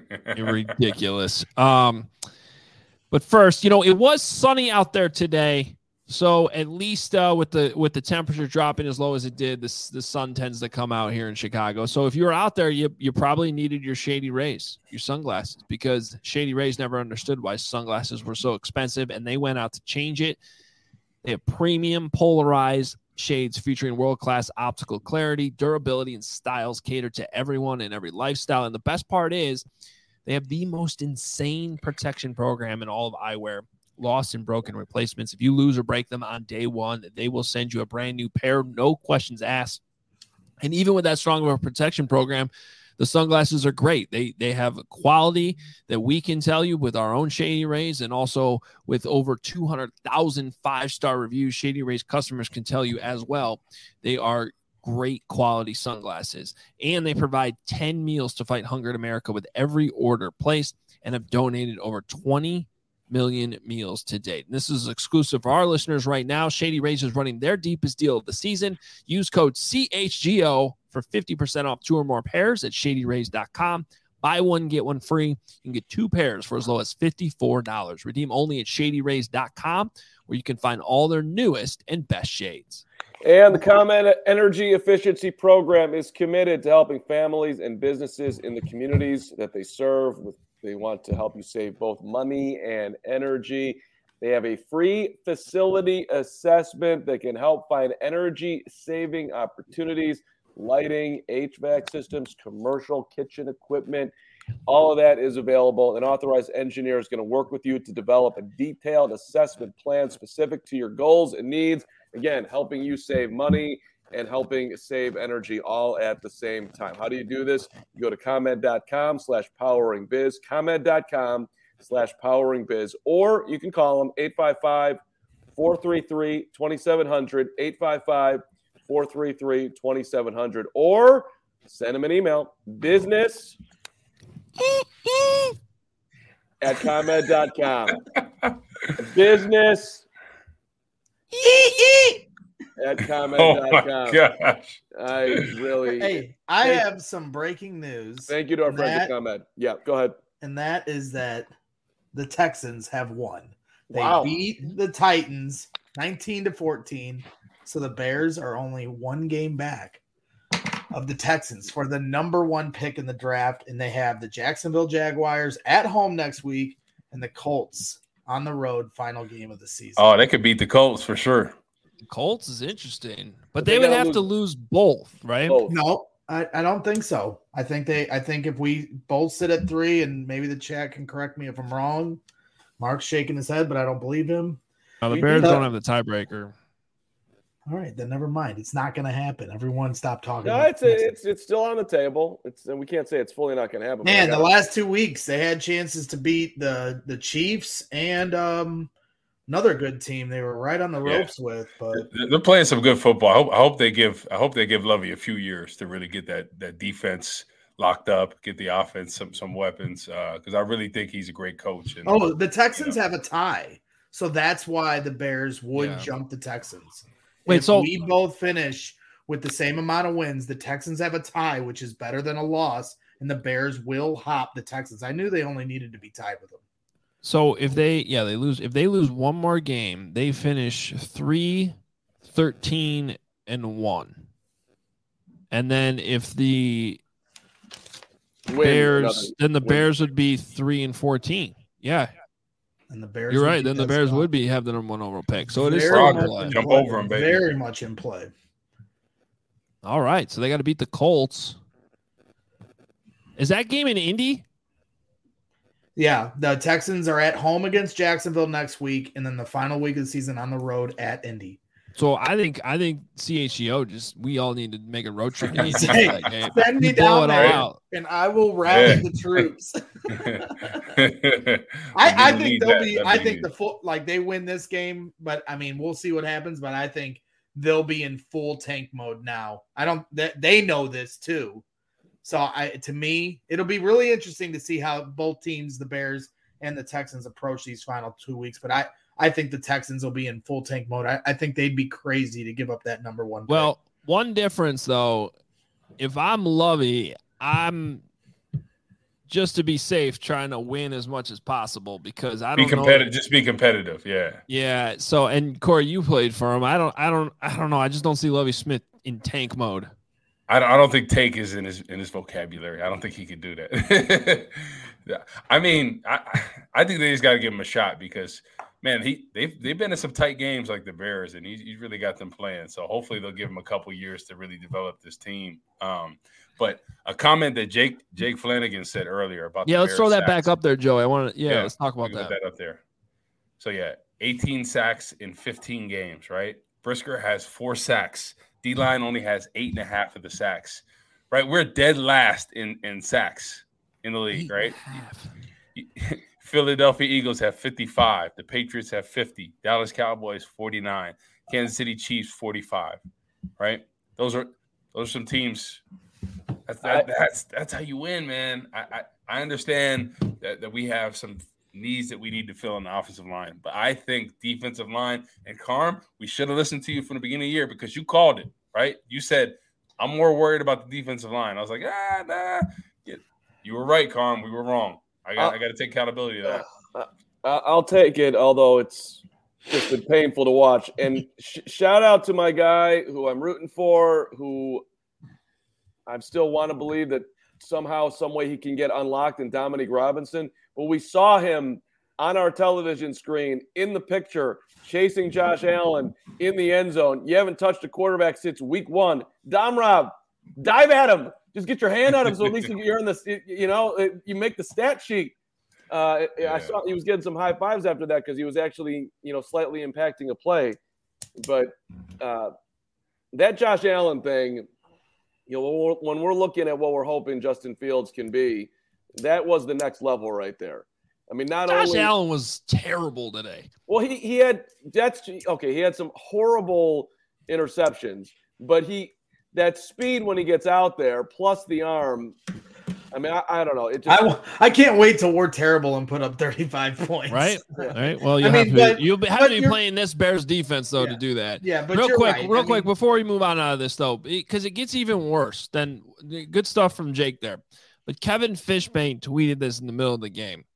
ridiculous. Um, but first, you know, it was sunny out there today. So at least uh, with the with the temperature dropping as low as it did, this the sun tends to come out here in Chicago. So if you were out there, you you probably needed your Shady Rays, your sunglasses, because Shady Rays never understood why sunglasses were so expensive, and they went out to change it. They have premium polarized shades featuring world-class optical clarity, durability, and styles catered to everyone and every lifestyle. And the best part is they have the most insane protection program in all of eyewear. Lost and broken replacements. If you lose or break them on day one, they will send you a brand new pair, no questions asked. And even with that strong of a protection program, the sunglasses are great. They they have a quality that we can tell you with our own Shady Rays, and also with over two hundred thousand five-star reviews, Shady Rays customers can tell you as well. They are great quality sunglasses, and they provide ten meals to fight hunger in America with every order placed, and have donated over twenty million meals to date. And this is exclusive for our listeners right now. Shady Rays is running their deepest deal of the season. Use code C H G O for fifty percent off two or more pairs at shady rays dot com. Buy one, get one free. You can get two pairs for as low as fifty-four dollars. Redeem only at shady rays dot com, where you can find all their newest and best shades. And the ComEd Energy Efficiency Program is committed to helping families and businesses in the communities that they serve with They want to help you save both money and energy. They have a free facility assessment that can help find energy-saving opportunities. lighting, H V A C systems, commercial kitchen equipment. All of that is available. An authorized engineer is going to work with you to develop a detailed assessment plan specific to your goals and needs. Again, helping you save money and helping save energy all at the same time. How do you do this? You go to ComEd.com slash powering biz, ComEd.com slash powering biz, or you can call them eight five five, four three three, two seven zero zero, eight five five, four three three, two seven zero zero, or send them an email, business at ComEd dot com. Business at ComEd dot com. Oh, my gosh. I really. Hey, I Thank- have some breaking news. Thank you to our And friends that- at ComEd. Yeah, go ahead. and that is that the Texans have won. They Wow. beat the Titans nineteen to fourteen. So the Bears are only one game back of the Texans for the number one pick in the draft. And they have the Jacksonville Jaguars at home next week and the Colts on the road, final game of the season. Oh, they could beat the Colts for sure. Colts is interesting, but But they they would gotta have lose- to lose both, right? Both. No, I, I don't think so. I think they I think if we both sit at three, and maybe the chat can correct me if I'm wrong. Mark's shaking his head, but I don't believe him. No, the We Bears beat don't the- have the tiebreaker. All right, then never mind. It's not going to happen. Everyone stop talking. No, about it's, this. it's it's still on the table. It's and we can't say it's fully not going to happen. but Man, I the gotta- last two weeks they had chances to beat the the Chiefs and um another good team they were right on the Yeah. ropes with, but They're they're playing some good football. I hope, I hope they give I hope they give Lovey a few years to really get that that defense locked up, get the offense some some weapons. Because I really think he's a great coach. And, oh, the Texans you know. have a tie. So that's why the Bears would Yeah. jump the Texans. Wait, if so- we both finish with the same amount of wins, the Texans have a tie, which is better than a loss, and the Bears will hop the Texans. I knew they only needed to be tied with them. So if they, yeah, they lose. If they lose one more game, they finish three, thirteen, and one. And then if the Win Bears, another- then the win. Bears would be three and fourteen. Yeah, And the Bears you're would right. beat Then the those Bears guys. would be have the number one overall pick. So it is Very still in much play. in Jump play. over 'em, baby. Very much in play. All right, so they got to beat the Colts. Is that game in Indy? Yeah, the Texans are at home against Jacksonville next week, and then the final week of the season on the road at Indy. So I think I think C H G O just we all need to make a road trip. Hey, that game. Send me Blow down it all there, out. and I will rally Yeah. the troops. I, I, I think they'll be. I think the full like they win this game, but I mean we'll see what happens. But I think they'll be in full tank mode now. I don't. They, they know this too. So I, to me, it'll be really interesting to see how both teams, the Bears and the Texans, approach these final two weeks. But I, I think the Texans will be in full tank mode. I, I think they'd be crazy to give up that number one pick. Well, one difference though, if I'm Lovey, I'm just to be safe trying to win as much as possible because I be don't know. competitive. Just be competitive. Yeah. Yeah. So and Corey, you played for him. I don't. I don't. I don't know. I just don't see Lovey Smith in tank mode. I don't, I don't think take is in his in his vocabulary. I don't think he could do that. Yeah. I mean, I I think they just got to give him a shot because man, he they've they've been in some tight games like the Bears, and he's, he's really got them playing. So hopefully they'll give him a couple years to really develop this team. Um, but a comment that Jake Jake Flanagan said earlier about Yeah. the Let's Bears throw that sacks. back up there, Joey. I want to. Yeah, Yeah, Let's talk about We can that. put that up there. So yeah, eighteen sacks in fifteen games. Right, Brisker has four sacks. D line only has eight and a half of the sacks. Right, we're dead last in in sacks in the league. Eight Right. and a half. Philadelphia Eagles have fifty-five. The Patriots have fifty. Dallas Cowboys forty-nine. Kansas City Chiefs forty-five. Right? Those are those are some teams. That's that, that's that's how you win, man. I I, I understand that, that we have some needs that we need to fill in the offensive line, but I think defensive line and Carm, we should have listened to you from the beginning of the year because you called it, right? You said I'm more worried about the defensive line. I was like, ah, nah. Yeah, you were right, Carm. We were wrong. I got, Uh, I got to take accountability of that. I- I'll take it, although it's just been painful to watch. And sh- shout out to my guy who I'm rooting for, who I still want to believe that somehow, some way he can get unlocked in Dominique Robinson. But we saw him on our television screen in the picture chasing Josh Allen in the end zone. You haven't touched a quarterback since week one. Dom Rob, dive at him. Just get your hand on him, so at least you're in the, you know, you make the stat sheet. Uh, yeah. I saw he was getting some high fives after that because he was actually, you know, slightly impacting a play. But uh, that Josh Allen thing, you know, when we're, when we're looking at what we're hoping Justin Fields can be, that was the next level right there. I mean, not Josh only Allen was terrible today. Well, he he had that's okay. He had some horrible interceptions, but he that speed when he gets out there, plus the arm. I mean, I, I don't know. It just, I, I can't wait till we're terrible and put up thirty-five points. Right. Yeah. All right. Well, you I have mean, to but, you'll have but to be playing this Bears defense though yeah. to do that. Yeah, but real you're quick, right. real I quick mean, before we move on out of this though, because it gets even worse. Than good stuff from Jake there, but Kevin Fishbane tweeted this in the middle of the game.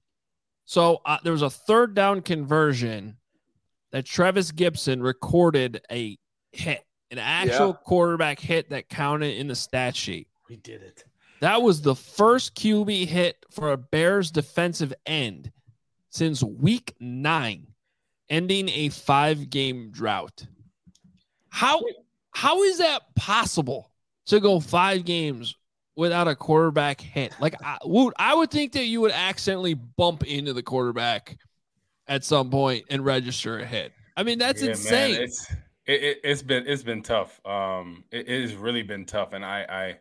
So uh, there was a third down conversion that Travis Gibson recorded a hit, an actual Yeah. quarterback hit that counted in the stat sheet. we did it. That was the first Q B hit for a Bears defensive end since week nine, ending a five-game drought. How how is that possible to go five games without a quarterback hit? Like, I would, I would think that you would accidentally bump into the quarterback at some point and register a hit. I mean, that's Yeah, insane. Man, it's it, it, it's been it's been tough. Um, it, it has really been tough, and I, I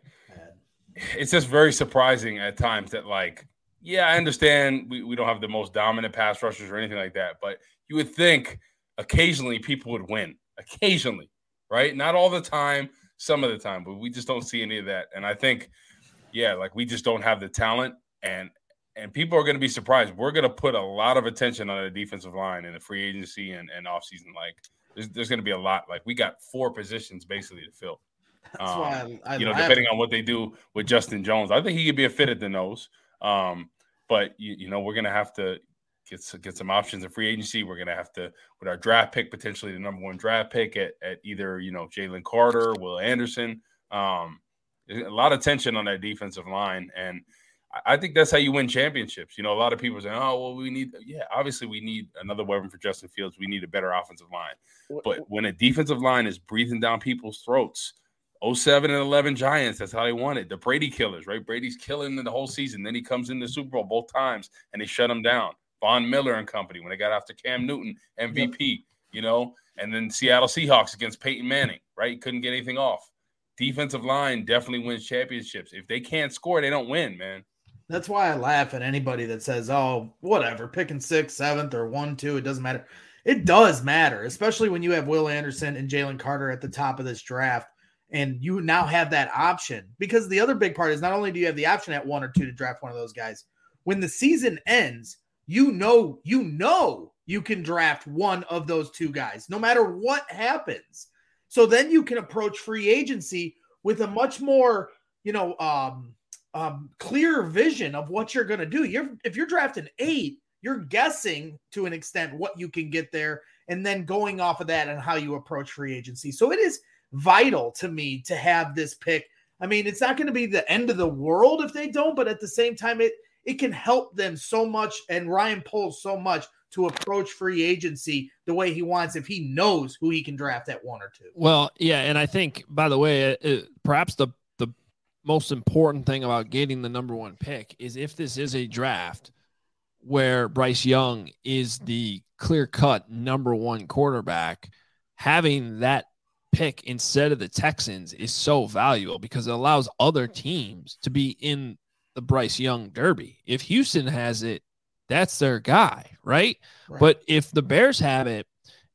it's just very surprising at times that, like, yeah, I understand we, we don't have the most dominant pass rushers or anything like that, but you would think occasionally people would win. Occasionally, right? Not all the time, some of the time, but we just don't see any of that. And I think, yeah, like we just don't have the talent, and and people are going to be surprised. We're going to put a lot of attention on the defensive line in the free agency and, and offseason. Like, there's, there's going to be a lot. Like, we got four positions basically to fill. That's Um, why I, I you know, laugh. depending on what they do with Justin Jones, I think he could be a fit at the nose. Um, but you, you know, we're gonna have to get some, get some options in free agency. We're gonna have to, with our draft pick, potentially the number one draft pick at, at either you know Jalen Carter, Will Anderson. Um, a lot of tension on that defensive line, and I, I think that's how you win championships. You know, a lot of people say, "Oh, well, we need." Yeah, obviously, we need another weapon for Justin Fields. We need a better offensive line. But when a defensive line is breathing down people's throats. oh seven and eleven Giants, that's how they won it. The Brady killers, right? Brady's killing them the whole season. Then he comes in the Super Bowl both times, and they shut him down. Von Miller and company, when they got after Cam Newton, M V P, yep. you know? And then Seattle Seahawks against Peyton Manning, right? Couldn't get anything off. Defensive line definitely wins championships. If they can't score, they don't win, man. That's why I laugh at anybody that says, oh, whatever, picking sixth, seventh, or one, two, it doesn't matter. It does matter, especially when you have Will Anderson and Jalen Carter at the top of this draft. And you now have that option, because the other big part is not only do you have the option at one or two to draft one of those guys, when the season ends, you know, you know, you can draft one of those two guys, no matter what happens. So then you can approach free agency with a much more, you know, um, um, clear vision of what you're going to do. You're, if you're drafting eight, you're guessing to an extent what you can get there, and then going off of that and how you approach free agency. So it is vital to me to have this pick. I mean, it's not going to be the end of the world if they don't, but at the same time, it it can help them so much, and Ryan Poles so much, to approach free agency the way he wants if he knows who he can draft at one or two. Well, yeah, and I think, by the way, it, it, perhaps the the most important thing about getting the number one pick is if this is a draft where Bryce Young is the clear-cut number one quarterback, having that pick instead of the Texans is so valuable because it allows other teams to be in the Bryce Young derby. If Houston has it, that's their guy, right? right? But if the Bears have it,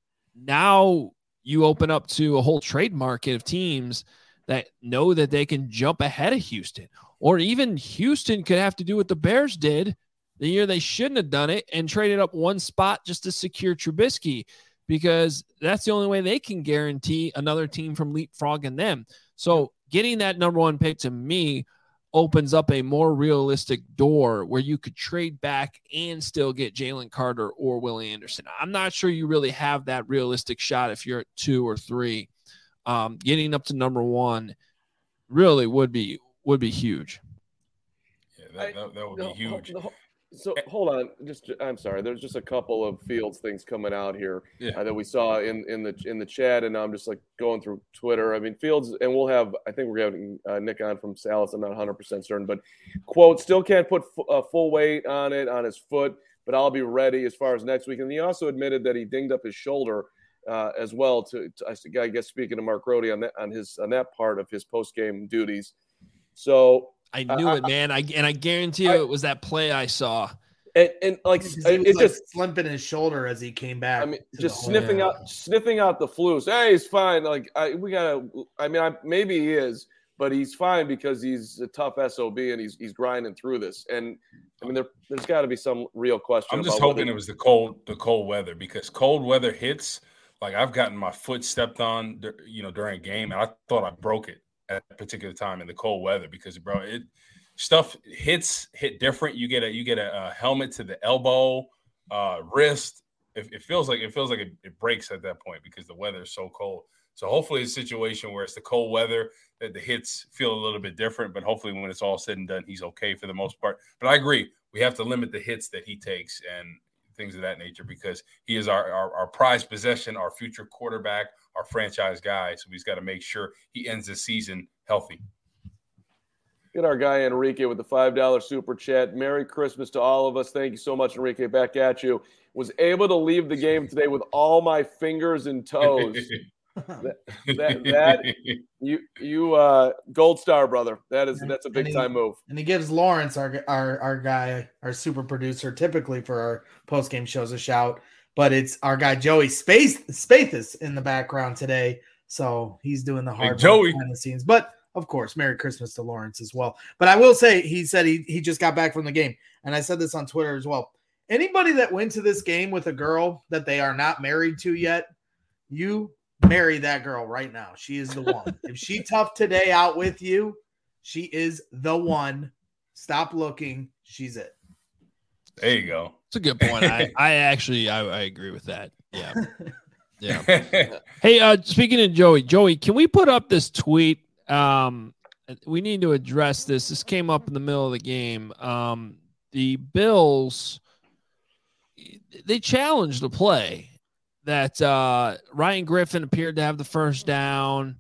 now you open up to a whole trade market of teams that know that they can jump ahead of Houston, or even Houston could have to do what the Bears did the year they shouldn't have done it and traded up one spot just to secure Trubisky, because that's the only way they can guarantee another team from leapfrogging them. So getting that number one pick to me opens up a more realistic door where you could trade back and still get Jalen Carter or Will Anderson. I'm not sure you really have that realistic shot if you're at two or three. Um, getting up to number one really would be would be huge. Yeah, that, that, that would be huge. The, the, So hold on, just I'm sorry. There's just a couple of Fields things coming out here Yeah. uh, that we saw in, in the in the chat, and I'm just like going through Twitter. I mean, Fields, and we'll have. I think we're having uh, Nick on from Salas. I'm not one hundred percent certain, but quote, still can't put f- uh, full weight on it on his foot, but I'll be ready as far as next week. And he also admitted that he dinged up his shoulder uh, as well. To, to I guess speaking to Mark Rohde on that on his on that part of his post game duties. So. I knew uh, it, man. I and I guarantee you I, it was that play I saw. And, and like He it, was it like just slumping his shoulder as he came back. I mean, to just the sniffing hole. out, sniffing out the flus. Hey, he's fine. Like I, we gotta. I mean, I, maybe he is, but he's fine because he's a tough S O B and he's he's grinding through this. And I mean, there, there's got to be some real question. I'm just about hoping whether, it was the cold, the cold weather, because cold weather hits. Like I've gotten my foot stepped on, you know, during a game, and I thought I broke it at a particular time in the cold weather because, bro, it. Stuff hits hit different. You get a you get a, a helmet to the elbow, uh, wrist. It, it feels like it feels like it, it breaks at that point because the weather is so cold. So hopefully it's a situation where it's the cold weather that the hits feel a little bit different. But hopefully when it's all said and done, he's okay for the most part. But I agree, we have to limit the hits that he takes and things of that nature because he is our our, our prized possession, our future quarterback, our franchise guy. So he's got to make sure he ends the season healthy. Get our guy Enrique with the five dollar super chat. Merry Christmas to all of us. Thank you so much, Enrique. Back at you. Was able to leave the game today with all my fingers and toes. that, that, that you you uh, gold star, brother. That is that's a big time move. And he gives Lawrence, our our our guy, our super producer, typically for our post game shows, a shout. But it's our guy Joey Space Spathis in the background today, so he's doing the hard hey, work Joey. behind the scenes. But of course, Merry Christmas to Lawrence as well. But I will say, he said he, he just got back from the game. And I said this on Twitter as well. Anybody that went to this game with a girl that they are not married to yet, you marry that girl right now. She is the one. If she toughed today out with you, she is the one. Stop looking. She's it. There you go. It's a good point. I, I actually, I, I agree with that. Yeah. Yeah. Hey, uh, speaking of Joey, Joey, can we put up this tweet? Um, we need to address this. This came up in the middle of the game. Um, the Bills, they challenged the play that uh, Ryan Griffin appeared to have the first down,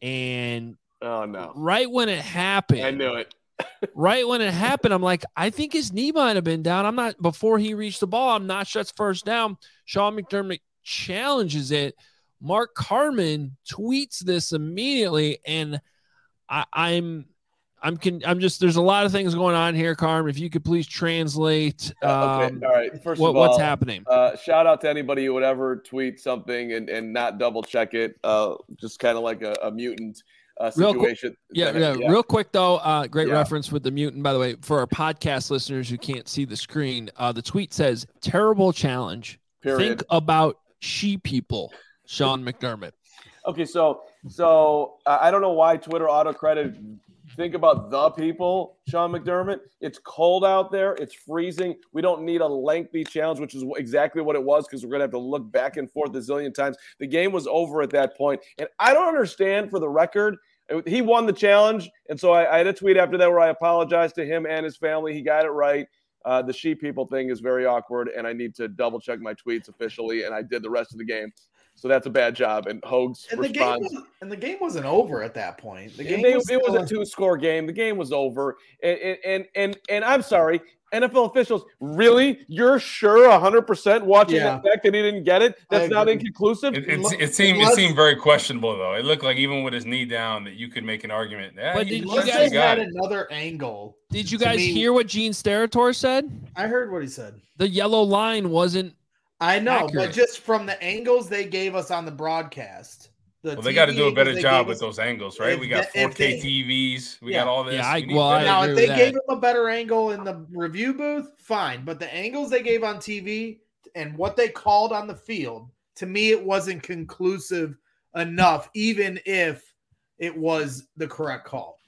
and oh no, right when it happened, I knew it. right when it happened, I'm like, I think his knee might have been down. I'm not before he reached the ball. I'm not sure it's first down. Sean McDermott challenges it. Mark Carman tweets this immediately, and I, I'm, I'm, con- I'm just. There's a lot of things going on here, Carm. If you could please translate. Um, okay, all right. First what, of all, what's happening? Uh, shout out to anybody who would ever tweet something and, and not double check it. Uh, just kind of like a, a mutant uh, situation. Real qu- yeah, yeah, yeah. Real quick though. Uh, great yeah. reference with the mutant. By the way, for our podcast listeners who can't see the screen, uh, the tweet says, "Terrible challenge. Period. Think about she people." Sean McDermott. Okay, so so uh, I don't know why Twitter auto credit. Think about the people, Sean McDermott. It's cold out there. It's freezing. We don't need a lengthy challenge, which is exactly what it was, because we're going to have to look back and forth a zillion times. The game was over at that point. And I don't understand, for the record, he won the challenge. And so I, I had a tweet after that where I apologized to him and his family. He got it right. Uh, the she people thing is very awkward, and I need to double check my tweets officially, and I did the rest of the game. So that's a bad job. And Hogs and responds. The game was, and the game wasn't over at that point. The game they, was it was a two-score game. The game was over. And and and and, and I'm sorry, N F L officials, really? You're sure one hundred percent watching Yeah. the fact that he didn't get it? That's not inconclusive? It, it, it, seemed, it seemed very questionable, though. It looked like even with his knee down that you could make an argument. Yeah, But he did you Unless guys they had another angle. Did you To guys me- hear what Gene Steratore said? I heard what he said. The yellow line wasn't. I know, Accurate. but just from the angles they gave us on the broadcast. The Well, they T V got to do a better angles they job gave with us- those angles, right? if We got they- if four K they- T Vs. We Yeah. got all this. Yeah, I- We need well, I- better- Now, agree if with they gave that. him a better angle in the review booth, fine. But the angles they gave on T V and what they called on the field, to me, it wasn't conclusive enough, even if it was the correct call.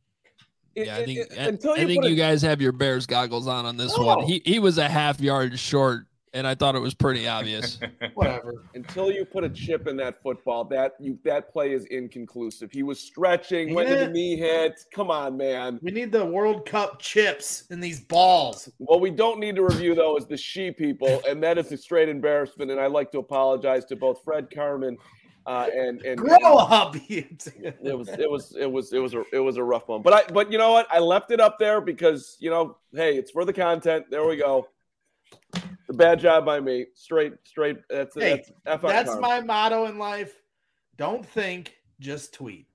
Yeah, I think It- it- I, until I think put you it- guys have your Bears goggles on on this No. one. He he was a half yard short and I thought it was pretty obvious. Whatever. Until you put a chip in that football, that you that play is inconclusive. He was stretching, Ain't went to it? the knee hit. Come on, man. We need the World Cup chips in these balls. What we don't need to review, though, is the she people, and that is a straight embarrassment. And I'd like to apologize to both Fred Carmen uh, and and Grow up. it was it was it was it was a it was a rough one. But I but you know what? I left it up there because you know, hey, it's for the content. There we go. The bad job by me. Straight straight. That's Hey, that's, F That's Carmen. my motto in life. Don't think, just tweet.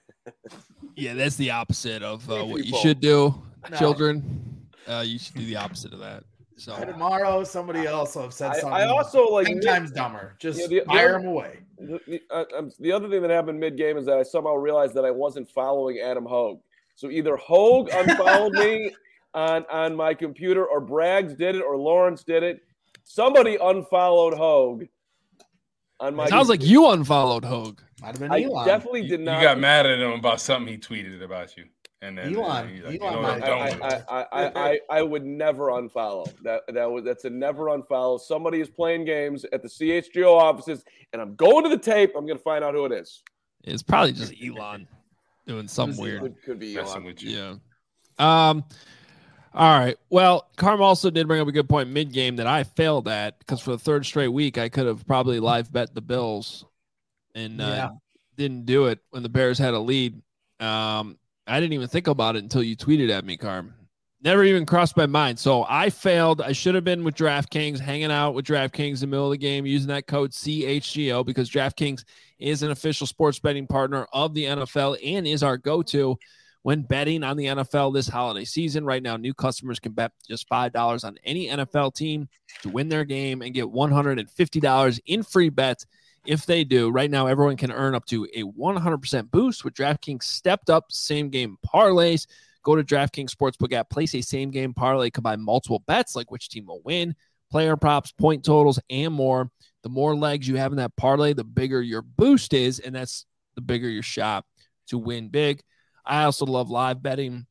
Yeah, that's the opposite of uh, Hey, what you people. should do, No. children. Uh, you should do the opposite of that. So Tomorrow, somebody else will have said I, something I also like ten times dumber. Just Yeah, the- the fire other- them away. The, the, uh, um, the other thing that happened mid game is that I somehow realized that I wasn't following Adam Hogue. So either Hogue unfollowed me on, on my computer, or Braggs did it, or Lawrence did it. Somebody unfollowed Hogue on my. sounds like you unfollowed Hogue. Might have been I Elon. definitely You, did you not. got mad at him about something he tweeted about you, and then Elon- he's like, Elon you know might- what, don't do I, it. I, I, I, I, I would never unfollow that. That was that's a never unfollow. Somebody is playing games at the C H G O offices, and I'm going to the tape. I'm going to find out who it is. It's probably just Elon doing something weird. Could, could be Messing Elon. with you. Yeah. Um. All right. Well, Carm also did bring up a good point mid game that I failed at, because for the third straight week I could have probably live bet the Bills, and uh, Yeah. didn't do it when the Bears had a lead. Um. I didn't even think about it until you tweeted at me, Carm. Never even crossed my mind. So I failed. I should have been with DraftKings, hanging out with DraftKings in the middle of the game, using that code C H G O, because DraftKings is an official sports betting partner of the N F L and is our go-to when betting on the N F L this holiday season. Right now, new customers can bet just five dollars on any N F L team to win their game and get one hundred fifty dollars in free bets if they do. Right now, everyone can earn up to a one hundred percent boost with DraftKings stepped up same game parlays. Go to DraftKings Sportsbook app, place a same game parlay, combine multiple bets like which team will win, player props, point totals, and more. The more legs you have in that parlay, the bigger your boost is, and that's the bigger your shot to win big. I also love live betting.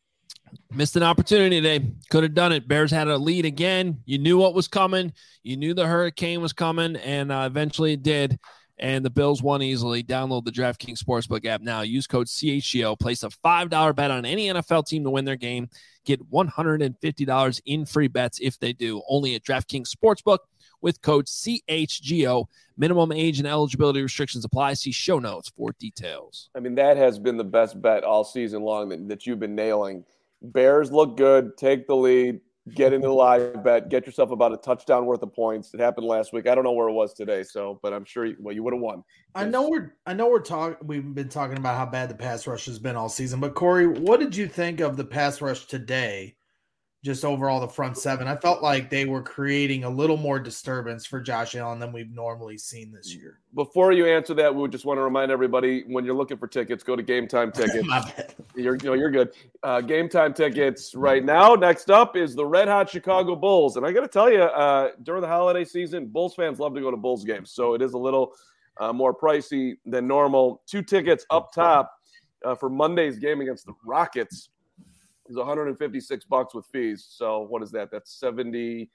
Missed an opportunity today. Could have done it. Bears had a lead again. You knew what was coming. You knew the hurricane was coming, and uh, eventually it did. And the Bills won easily. Download the DraftKings Sportsbook app now. Use code C H G O. Place a five dollars bet on any N F L team to win their game. Get one hundred fifty dollars in free bets if they do. Only at DraftKings Sportsbook with code C H G O. Minimum age and eligibility restrictions apply. See show notes for details. I mean, that has been the best bet all season long that, that you've been nailing. Bears look good. Take the lead. Get into the live bet. Get yourself about a touchdown worth of points. It happened last week. I don't know where it was today, so but I'm sure you, well you would have won. I know we're I know we're talking we've been talking about how bad the pass rush has been all season, but Corey, what did you think of the pass rush today? Just overall the front seven. I felt like they were creating a little more disturbance for Josh Allen than we've normally seen this year. Before you answer that, we would just want to remind everybody when you're looking for tickets, go to Game Time Tickets. My bad. You're, you know, you're good. Uh, Game Time Tickets right now. Next up is the Red Hot Chicago Bulls. And I got to tell you, uh, during the holiday season, Bulls fans love to go to Bulls games. So it is a little uh, more pricey than normal. Two tickets up top uh, for Monday's game against the Rockets is one hundred fifty-six bucks with fees. So what is that? That's seventy,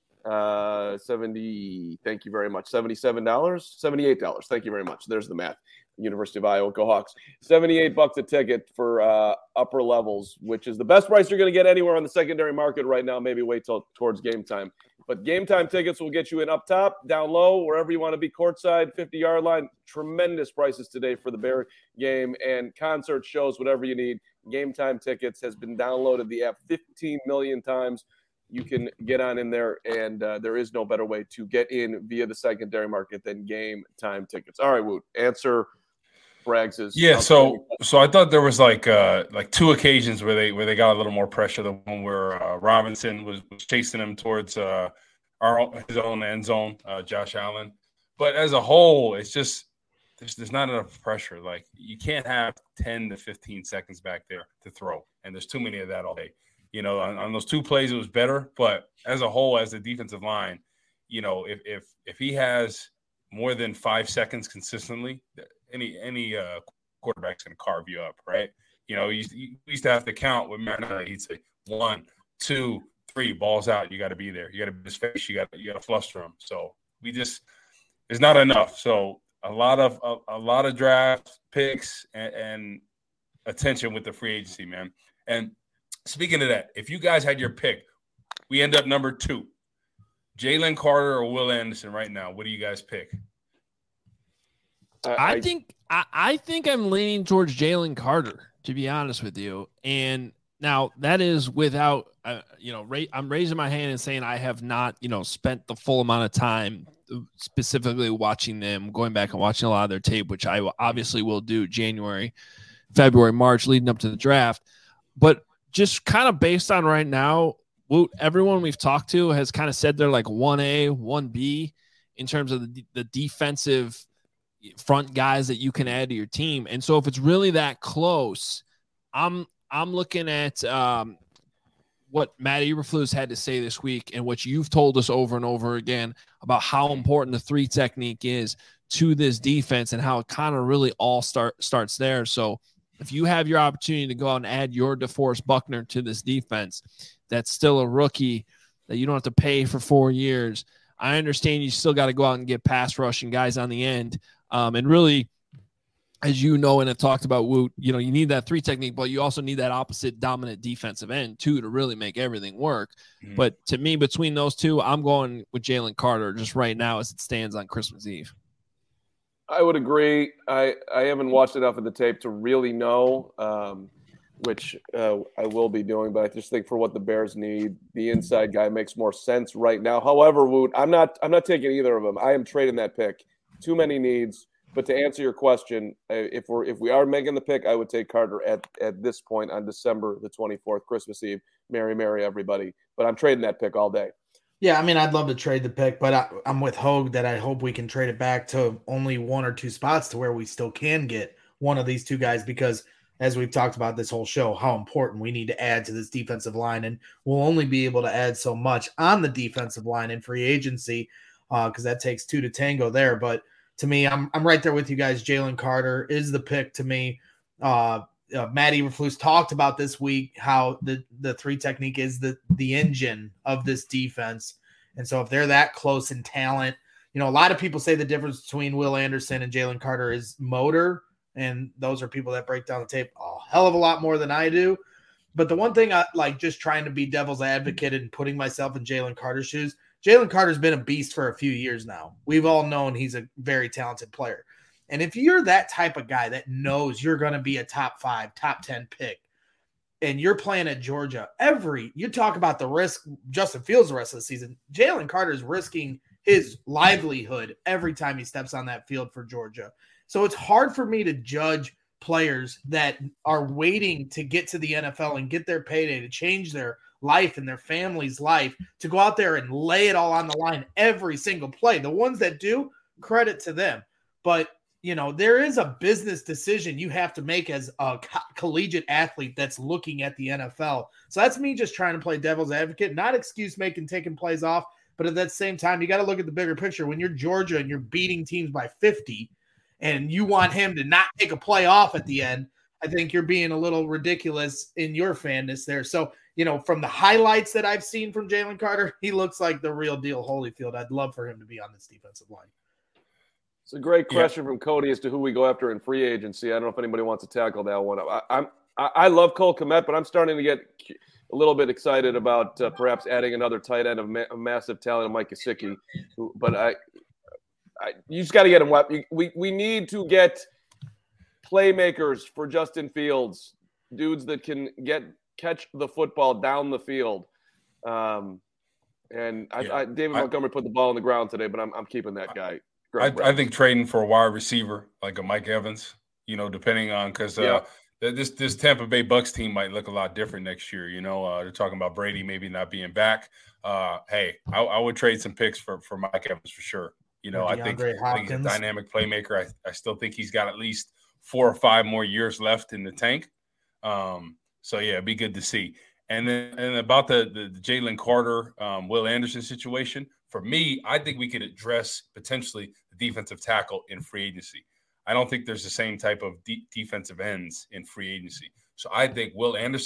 uh, seventy. Thank you very much. seventy-seven dollars, seventy-eight dollars. Thank you very much. There's the math. University of Iowa, go Hawks. seventy-eight bucks a ticket for uh, upper levels, which is the best price you're going to get anywhere on the secondary market right now. Maybe wait till towards game time. But Game Time Tickets will get you in up top, down low, wherever you want to be, courtside, fifty-yard line. Tremendous prices today for the Bear game and concert shows, whatever you need. Game Time Tickets has been downloaded the app fifteen million times. You can get on in there, and uh, there is no better way to get in via the secondary market than Game Time Tickets. All right, Woot, answer Braggs's. Yeah, so so I thought there was like uh like two occasions where they where they got a little more pressure. The one where uh, Robinson was, was chasing him towards uh our his own end zone, uh, Josh Allen. But as a whole, it's just there's there's not enough pressure. Like you can't have ten to fifteen seconds back there to throw, and there's too many of that all day. You know, on, on those two plays it was better, but as a whole, as the defensive line, you know, if if if he has more than five seconds consistently, any any uh, quarterback's going to carve you up, right? You know, you, you used to have to count with Marinelli. He'd say one, two, three, balls out. You got to be there. You got to be his face. You got you got to fluster him. So we just it's not enough. So a lot of a, a lot of draft picks and, and attention with the free agency, man. And speaking of that, if you guys had your pick, we end up number two. Jalen Carter or Will Anderson right now. What do you guys pick? I, I think I, I think I'm leaning towards Jalen Carter, to be honest with you. And now that is without, uh, you know, ra- I'm raising my hand and saying I have not, you know, spent the full amount of time specifically watching them, going back and watching a lot of their tape, which I obviously will do January, February, March, leading up to the draft. But just kind of based on right now, Woot, everyone we've talked to has kind of said they're like one A, one B in terms of the, the defensive front guys that you can add to your team. And so if it's really that close, I'm I'm looking at um, what Matt Eberflus had to say this week and what you've told us over and over again about how important the three technique is to this defense and how it kind of really all start starts there. So if you have your opportunity to go out and add your DeForest Buckner to this defense, that's still a rookie that you don't have to pay for four years. I understand you still got to go out and get pass rushing guys on the end. Um, and really, as you know and have talked about, Woot, you know, you need that three technique, but you also need that opposite dominant defensive end, too, to really make everything work. Mm-hmm. But to me, between those two, I'm going with Jalen Carter just right now as it stands on Christmas Eve. I would agree. I, I haven't watched enough of the tape to really know, um, which uh, I will be doing, but I just think for what the Bears need, the inside guy makes more sense right now. However, Woot, I'm not I'm not taking either of them. I am trading that pick. Too many needs. But to answer your question, if we're if we are making the pick, I would take Carter at, at this point on December the twenty-fourth, Christmas Eve. Merry, merry, everybody. But I'm trading that pick all day. Yeah, I mean, I'd love to trade the pick, but I, I'm with Hogue that I hope we can trade it back to only one or two spots to where we still can get one of these two guys because, as we've talked about this whole show, how important we need to add to this defensive line. And we'll only be able to add so much on the defensive line in free agency because uh, that takes two to tango there. But to me, I'm I'm right there with you guys. Jalen Carter is the pick to me. Uh, uh, Matt Eberflus talked about this week how the, the three technique is the, the engine of this defense. And so if they're that close in talent, you know, a lot of people say the difference between Will Anderson and Jalen Carter is motor. And those are people that break down the tape a hell of a lot more than I do. But the one thing I like just trying to be devil's advocate and putting myself in Jalen Carter's shoes, Jalen Carter's been a beast for a few years now. We've all known he's a very talented player. And if you're that type of guy that knows you're going to be a top five, top ten pick, and you're playing at Georgia, every you talk about the risk Justin Fields the rest of the season, Jalen Carter's risking his livelihood every time he steps on that field for Georgia. So it's hard for me to judge players that are waiting to get to the N F L and get their payday to change their life and their family's life to go out there and lay it all on the line every single play. The ones that do, credit to them. But, you know, there is a business decision you have to make as a co- collegiate athlete that's looking at the N F L. So that's me just trying to play devil's advocate, not excuse making taking plays off. But at that same time, you got to look at the bigger picture. When you're Georgia and you're beating teams by fifty and you want him to not take a play off at the end, I think you're being a little ridiculous in your fanness there. So, you know, from the highlights that I've seen from Jalen Carter, he looks like the real deal Holyfield. I'd love for him to be on this defensive line. It's a great question yeah. from Cody as to who we go after in free agency. I don't know if anybody wants to tackle that one. I, I'm I, I love Cole Kmet, but I'm starting to get a little bit excited about uh, perhaps adding another tight end of ma- a massive talent of Mike Gesicki. But I, I you just got to get him. We we need to get playmakers for Justin Fields, dudes that can get catch the football down the field. Um, and I, yeah. I, David I, Montgomery put the ball on the ground today, but I'm I'm keeping that guy. I, I think trading for a wide receiver like a Mike Evans, you know, depending on because uh, yeah. this this Tampa Bay Bucks team might look a lot different next year. You know, uh, they're talking about Brady maybe not being back. Uh, hey, I, I would trade some picks for, for Mike Evans for sure. You know, I think, I think he's a dynamic playmaker. I, I still think he's got at least four or five more years left in the tank. Um, so, yeah, it'd be good to see. And then and about the, the, the Jalen Carter, um, Will Anderson situation, for me, I think we could address potentially the defensive tackle in free agency. I don't think there's the same type of de- defensive ends in free agency. So I think Will Anderson,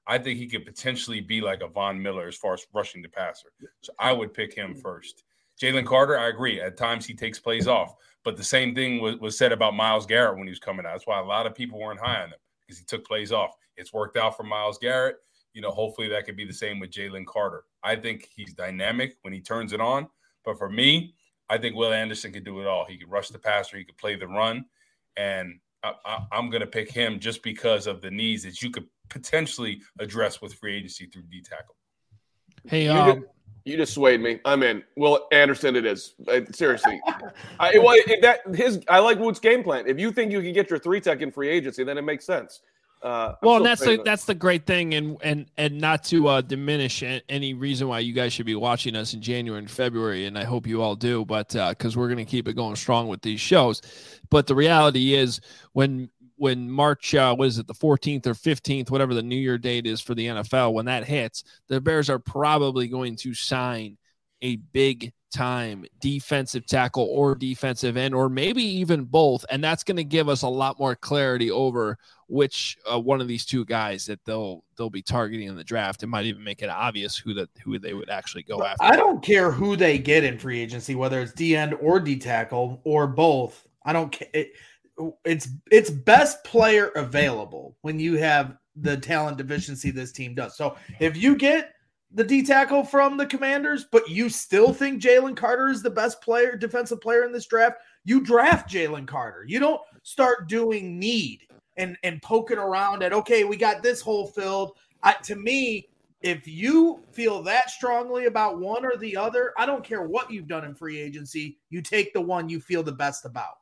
I think he could potentially be like a Von Miller as far as rushing the passer. So I would pick him first. Jalen Carter, I agree. At times he takes plays off. But the same thing was, was said about Myles Garrett when he was coming out. That's why a lot of people weren't high on him because he took plays off. It's worked out for Myles Garrett. You know, hopefully that could be the same with Jalen Carter. I think he's dynamic when he turns it on. But for me, I think Will Anderson could do it all. He could rush the passer. He could play the run. And I, I, I'm going to pick him just because of the needs that you could potentially address with free agency through D tackle. Hey, you, um, just, you just swayed me. I'm in. Will Anderson, it is. Uh, seriously. I, well, it, that, his, I like Wood's game plan. If you think you can get your three tech in free agency, then it makes sense. Uh, well, and that's the, that's the great thing, and and and not to uh, diminish any reason why you guys should be watching us in January and February, and I hope you all do, but because uh, we're going to keep it going strong with these shows. But the reality is, when when March, uh, what is it, the fourteenth or fifteenth, whatever the New Year date is for the N F L, when that hits, the Bears are probably going to sign a big time defensive tackle or defensive end, or maybe even both. And that's going to give us a lot more clarity over which uh, one of these two guys that they'll, they'll be targeting in the draft. It might even make it obvious who that, who they would actually go after. I don't care who they get in free agency, whether it's D end or D tackle or both. I don't care. It, it's, it's best player available when you have the talent deficiency this team does. So if you get the D tackle from the Commanders, but you still think Jalen Carter is the best player, defensive player in this draft, you draft Jalen Carter. You don't start doing need and, and poking around at, okay, we got this hole filled. I, to me, if you feel that strongly about one or the other, I don't care what you've done in free agency. You take the one you feel the best about.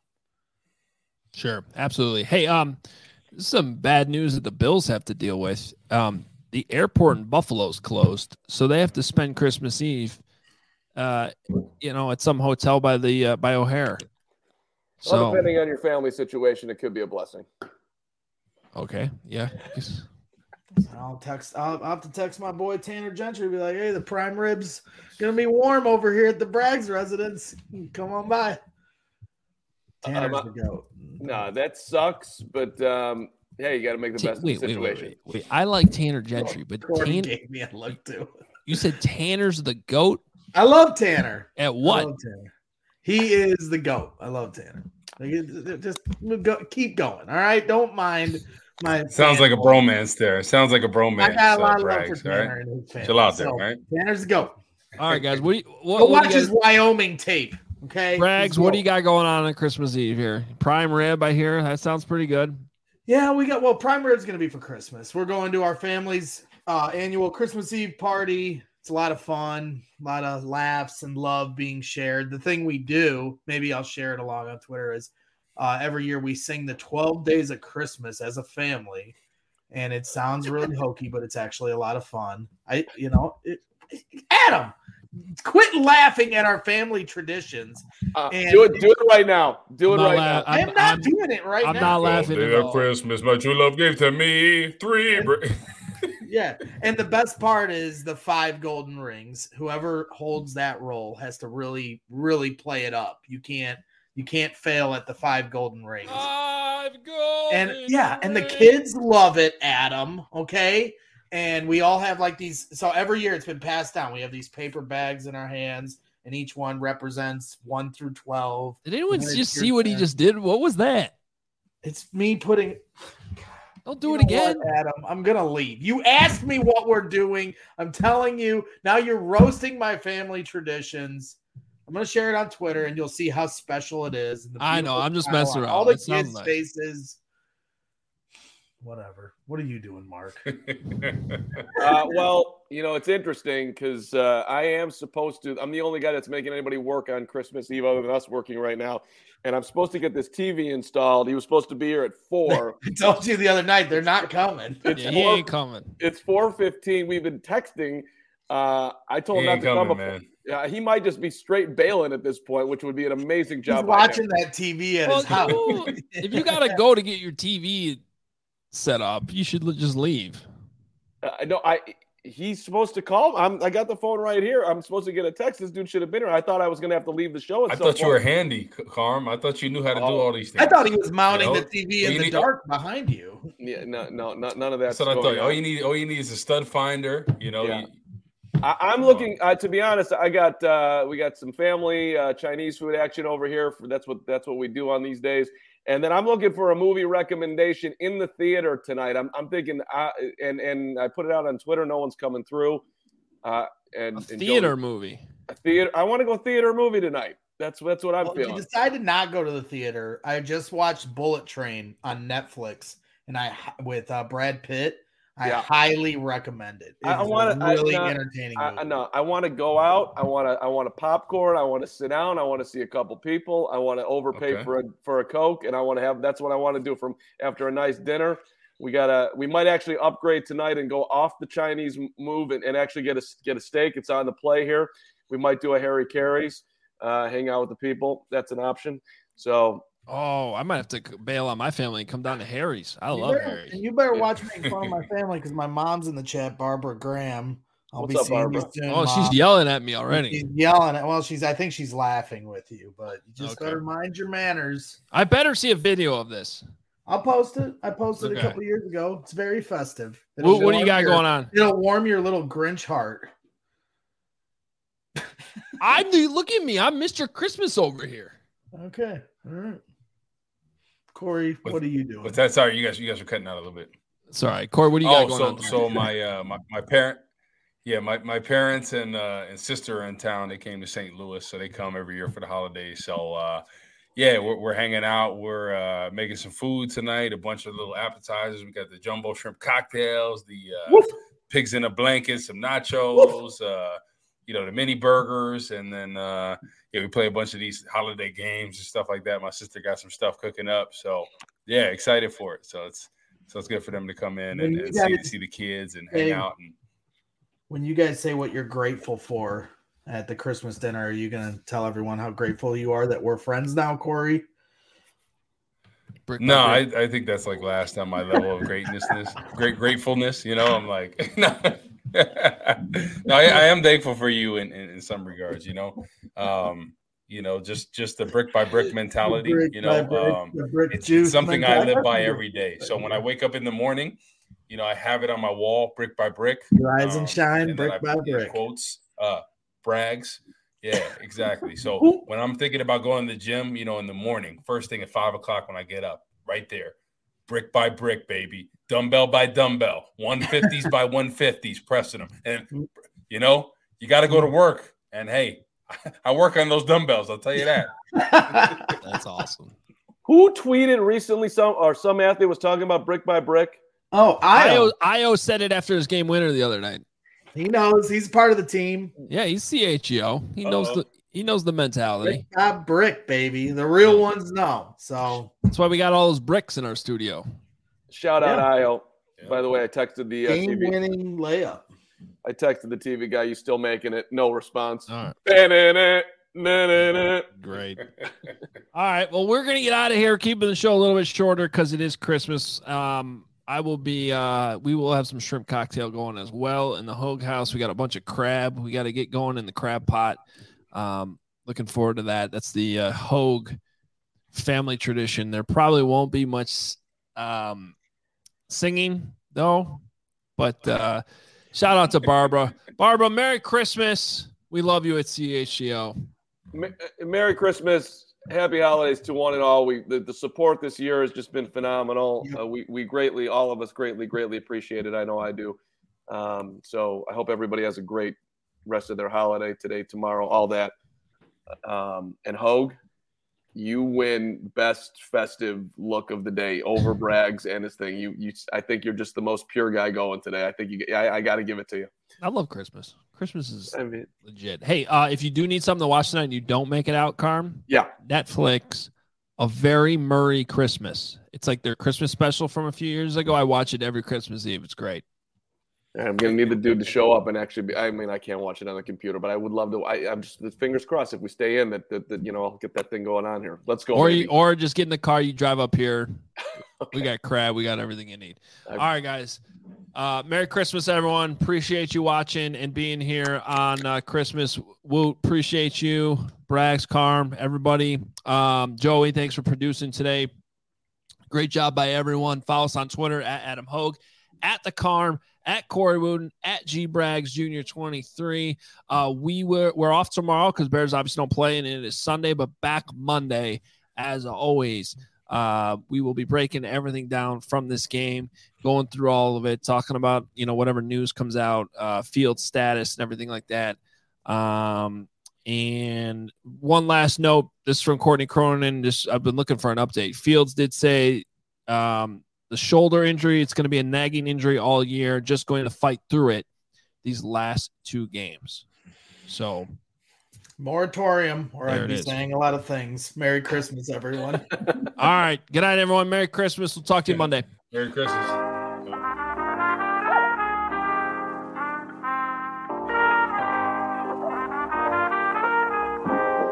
Sure. Absolutely. Hey, um, some bad news that the Bills have to deal with. Um, The airport in Buffalo is closed, so they have to spend Christmas Eve, uh, you know, at some hotel by the uh, by O'Hare. So, well, depending on your family situation, it could be a blessing. Okay, yeah. I'll text. I'll, I'll have to text my boy Tanner Gentry. Be like, hey, the prime ribs gonna be warm over here at the Braggs residence. Come on by. Tanner's um, the goat. No, that sucks, but. Um, Yeah, you got to make the T- best wait, of the wait, situation. wait, wait, wait. I like Tanner Gentry, but Corey Tanner, gave me a look too. You said Tanner's the GOAT? I love Tanner. At what? I love Tanner. He is the GOAT. I love Tanner. Like, just go, keep going. All right. Don't mind my. Sounds like a bromance there. Sounds like a bromance. I got a lot uh, of love for Braggs, Tanner right? and his family. Chill out there, So, right? Tanner's the GOAT. All right, guys. What do you, what, Go what watch do you guys, his Wyoming tape. Okay. Braggs, what do you got going on on Christmas Eve here? Prime rib, I hear. That sounds pretty good. Yeah, we got, well, prime rib's going to be for Christmas. We're going to our family's uh, annual Christmas Eve party. It's a lot of fun, a lot of laughs and love being shared. The thing we do, maybe I'll share it along on Twitter, is uh, every year we sing the twelve days of Christmas as a family. And it sounds really hokey, but it's actually a lot of fun. I, you know, it, Adam, quit laughing at our family traditions. Uh, and do it, do it right now. Do it I'm right la- now. I am not I'm- doing it right I'm now. not laughing Day at of all. Christmas, my true love gave to me three. Br- Yeah, and the best part is the five golden rings. Whoever holds that role has to really, really play it up. You can't, you can't fail at the five golden rings. Five golden And yeah, and the rings. kids love it, Adam. Okay, and we all have like these. So every year it's been passed down. We have these paper bags in our hands, and each one represents one through twelve. Did anyone And then just it's see your what he turn. just did? What was that? It's me putting. Don't do You it know again. what, Adam, I'm gonna leave. You asked me what we're doing. I'm telling you now. You're roasting my family traditions. I'm gonna share it on Twitter, and you'll see how special it is. and the I know, beautiful I'm just smile messing on around. All the It sounds kids' nice. faces. Whatever. What are you doing, Mark? Uh, well, you know, it's interesting because uh, I am supposed to. I'm the only guy that's making anybody work on Christmas Eve other than us working right now. And I'm supposed to get this T V installed. He was supposed to be here at four. I told you the other night they're not coming. It's Yeah, he four, ain't coming. it's four fifteen. We've been texting. Uh, I told He him not ain't to come. coming, before- man. Yeah, he might just be straight bailing at this point, which would be an amazing He's job. by him. watching that T V at Well, his house. you- if you gotta go to get your T V set up, you should l- just leave. Uh, no, I. he's supposed to call. I'm, I got the phone right here. I'm supposed to get a text. This dude should have been here. I thought I was going to have to leave the show. At I some thought you point. were handy, Carm. I thought you knew how to Oh. do all these things. I thought he was mounting You know? the T V in You the need- dark behind you. Yeah, no, no, no none of that. That's what I thought. All you need, all you need is a stud finder. You know, Yeah. you- I, I'm looking. Uh, to be honest, I got uh, we got some family uh, Chinese food action over here. For, that's what that's what we do on these days. And then I'm looking for a movie recommendation in the theater tonight. I'm I'm thinking, uh, and and I put it out on Twitter. No one's coming through. Uh, and A and theater Jody- movie. a theater. I want to go theater movie tonight. That's that's what I'm Well, if feeling. you decide to not go to the theater, I just watched Bullet Train on Netflix, and I with uh, Brad Pitt. I Yeah. highly recommend it. It I- I is wanna- a I- really no, entertaining. I, movie. I know. I want to go out. I want to. I want to popcorn. I want to sit down. I want to see a couple people. I want to overpay Okay. for a for a Coke, and I want to have. That's what I want to do from after a nice dinner. We gotta. We might actually upgrade tonight and go off the Chinese m- move and, and actually get a get a steak. It's on the play here. We might do a Harry Carey's, uh, hang out with the people. That's an option. So Oh, I might have to bail on my family and come down to Harry's. I You love better- Harry's. And you better Yeah. watch making fun of my family because my mom's in the chat, Barbara Graham. I'll What's be up, seeing Barbara? you soon. Oh, Mom. she's yelling at me already. She's yelling at. Well, she's. I think she's laughing with you, but you just Okay. better mind your manners. I better see a video of this. I'll post it. I posted Okay. a couple years ago. It's very festive. What, what do you warm got your- going on? It'll warm your little Grinch heart. I'm the look at me. I'm Mister Christmas over here. Okay. All right. Corey, What- what are you doing? But that's sorry, you guys, you guys are cutting out a little bit. Sorry, Corey. What do you got Oh, going so on? tonight? so my uh my, my parent, yeah, my, my parents and uh and sister are in town. They came to Saint Louis, so they come every year for the holidays. So uh yeah, we're we're hanging out. We're uh making some food tonight, a bunch of little appetizers. We got the jumbo shrimp cocktails, the uh Woof. pigs in a blanket, some nachos, uh, you know, the mini burgers, and then uh yeah, we play a bunch of these holiday games and stuff like that. My sister got some stuff cooking up. So yeah, excited for it. So it's so it's good for them to come in When and, you and see, guys- see the kids and hang Hey. out. And When you guys say what you're grateful for at the Christmas dinner, are you going to tell everyone how grateful you are that we're friends now, Corey? Brick by no, I, brick. I think that's like last on my level of greatness, great gratefulness. You know, I'm like, no, no I, I am thankful for you in, in, in some regards. You know, um, you know, just just the brick by brick mentality. Brick You by know, brick, um, the brick it's, juice it's something I mentality. live by every day. So when I wake up in the morning, you know, I have it on my wall, brick by brick. Rise and um, shine, and then brick I by put these brick. Quotes, uh, brags. Yeah, exactly. So when I'm thinking about going to the gym, you know, in the morning, first thing at five o'clock when I get up, right there, brick by brick, baby, dumbbell by dumbbell, one fifties by one fifties, pressing them. And, you know, you got to go to work. And, hey, I work on those dumbbells. I'll tell you that. That's awesome. who tweeted recently? Some or some athlete was talking about brick by brick. Oh, Io. Io, Io said it after his game winner the other night. He knows he's part of the team. Yeah, he's C H E O. He knows Uh-oh. the he knows the mentality. Brick by brick, baby. The real ones know. So That's why we got all those bricks in our studio. Shout out Yeah. Io. Yeah. By the way, I texted the uh, T V. game-winning layup. I texted the T V guy. You still making it? No response. All right. Na-na-na, na-na-na. Great. All right. Well, we're gonna get out of here, keeping the show a little bit shorter because it is Christmas. Um, I will be. Uh, we will have some shrimp cocktail going as well in the Hogue House. We got a bunch of crab. We got to get going in the crab pot. Um, looking forward to that. That's the uh, Hogue family tradition. There probably won't be much um, singing though, but uh, shout out to Barbara. Barbara, Merry Christmas. We love you at C H C O. Ma- Merry Christmas. Happy holidays to one and all. We the, the support this year has just been phenomenal. Yep. Uh, we we greatly, all of us greatly, greatly appreciate it. I know I do. Um, so I hope everybody has a great rest of their holiday today, tomorrow, all that. Um, and Hogue, you win best festive look of the day over Braggs and his thing. You you, I think you're just the most pure guy going today. I think you. I, I got to give it to you. I love Christmas. Christmas is I mean, legit. Hey, uh, if you do need something to watch tonight and you don't make it out, Carm, yeah. Netflix, A Very Murray Christmas. It's like their Christmas special from a few years ago. I watch it every Christmas Eve. It's great. I'm gonna need the dude to show up and actually be. I mean, I can't watch it on the computer, but I would love to. I, I'm just fingers crossed if we stay in that, that, that you know I'll get that thing going on here. Let's go. Or baby. you, or just get in the car, you drive up here. We got crab. We got everything you need. I- All right, guys. Uh, Merry Christmas, everyone. Appreciate you watching and being here on uh, Christmas. Woot, appreciate you. Brags, Carm, everybody. Um, Joey, thanks for producing today. Great job by everyone. Follow us on Twitter at Adam Hogue, at the Carm, at Corey Wooten, at G Brags Junior twenty-three. Uh, we were we're off tomorrow because Bears obviously don't play, and it is Sunday, but back Monday as always. Uh, we will be breaking everything down from this game, going through all of it, talking about, you know, whatever news comes out, uh, field status and everything like that. Um, and one last note, this is from Courtney Cronin. Just, I've been looking for an update. Fields did say um, the shoulder injury, it's going to be a nagging injury all year, just going to fight through it these last two games. So moratorium, or there I'd be is. saying a lot of things. Merry Christmas, everyone. All right. Good night, everyone. Merry Christmas. We'll talk to you Monday. Merry Christmas.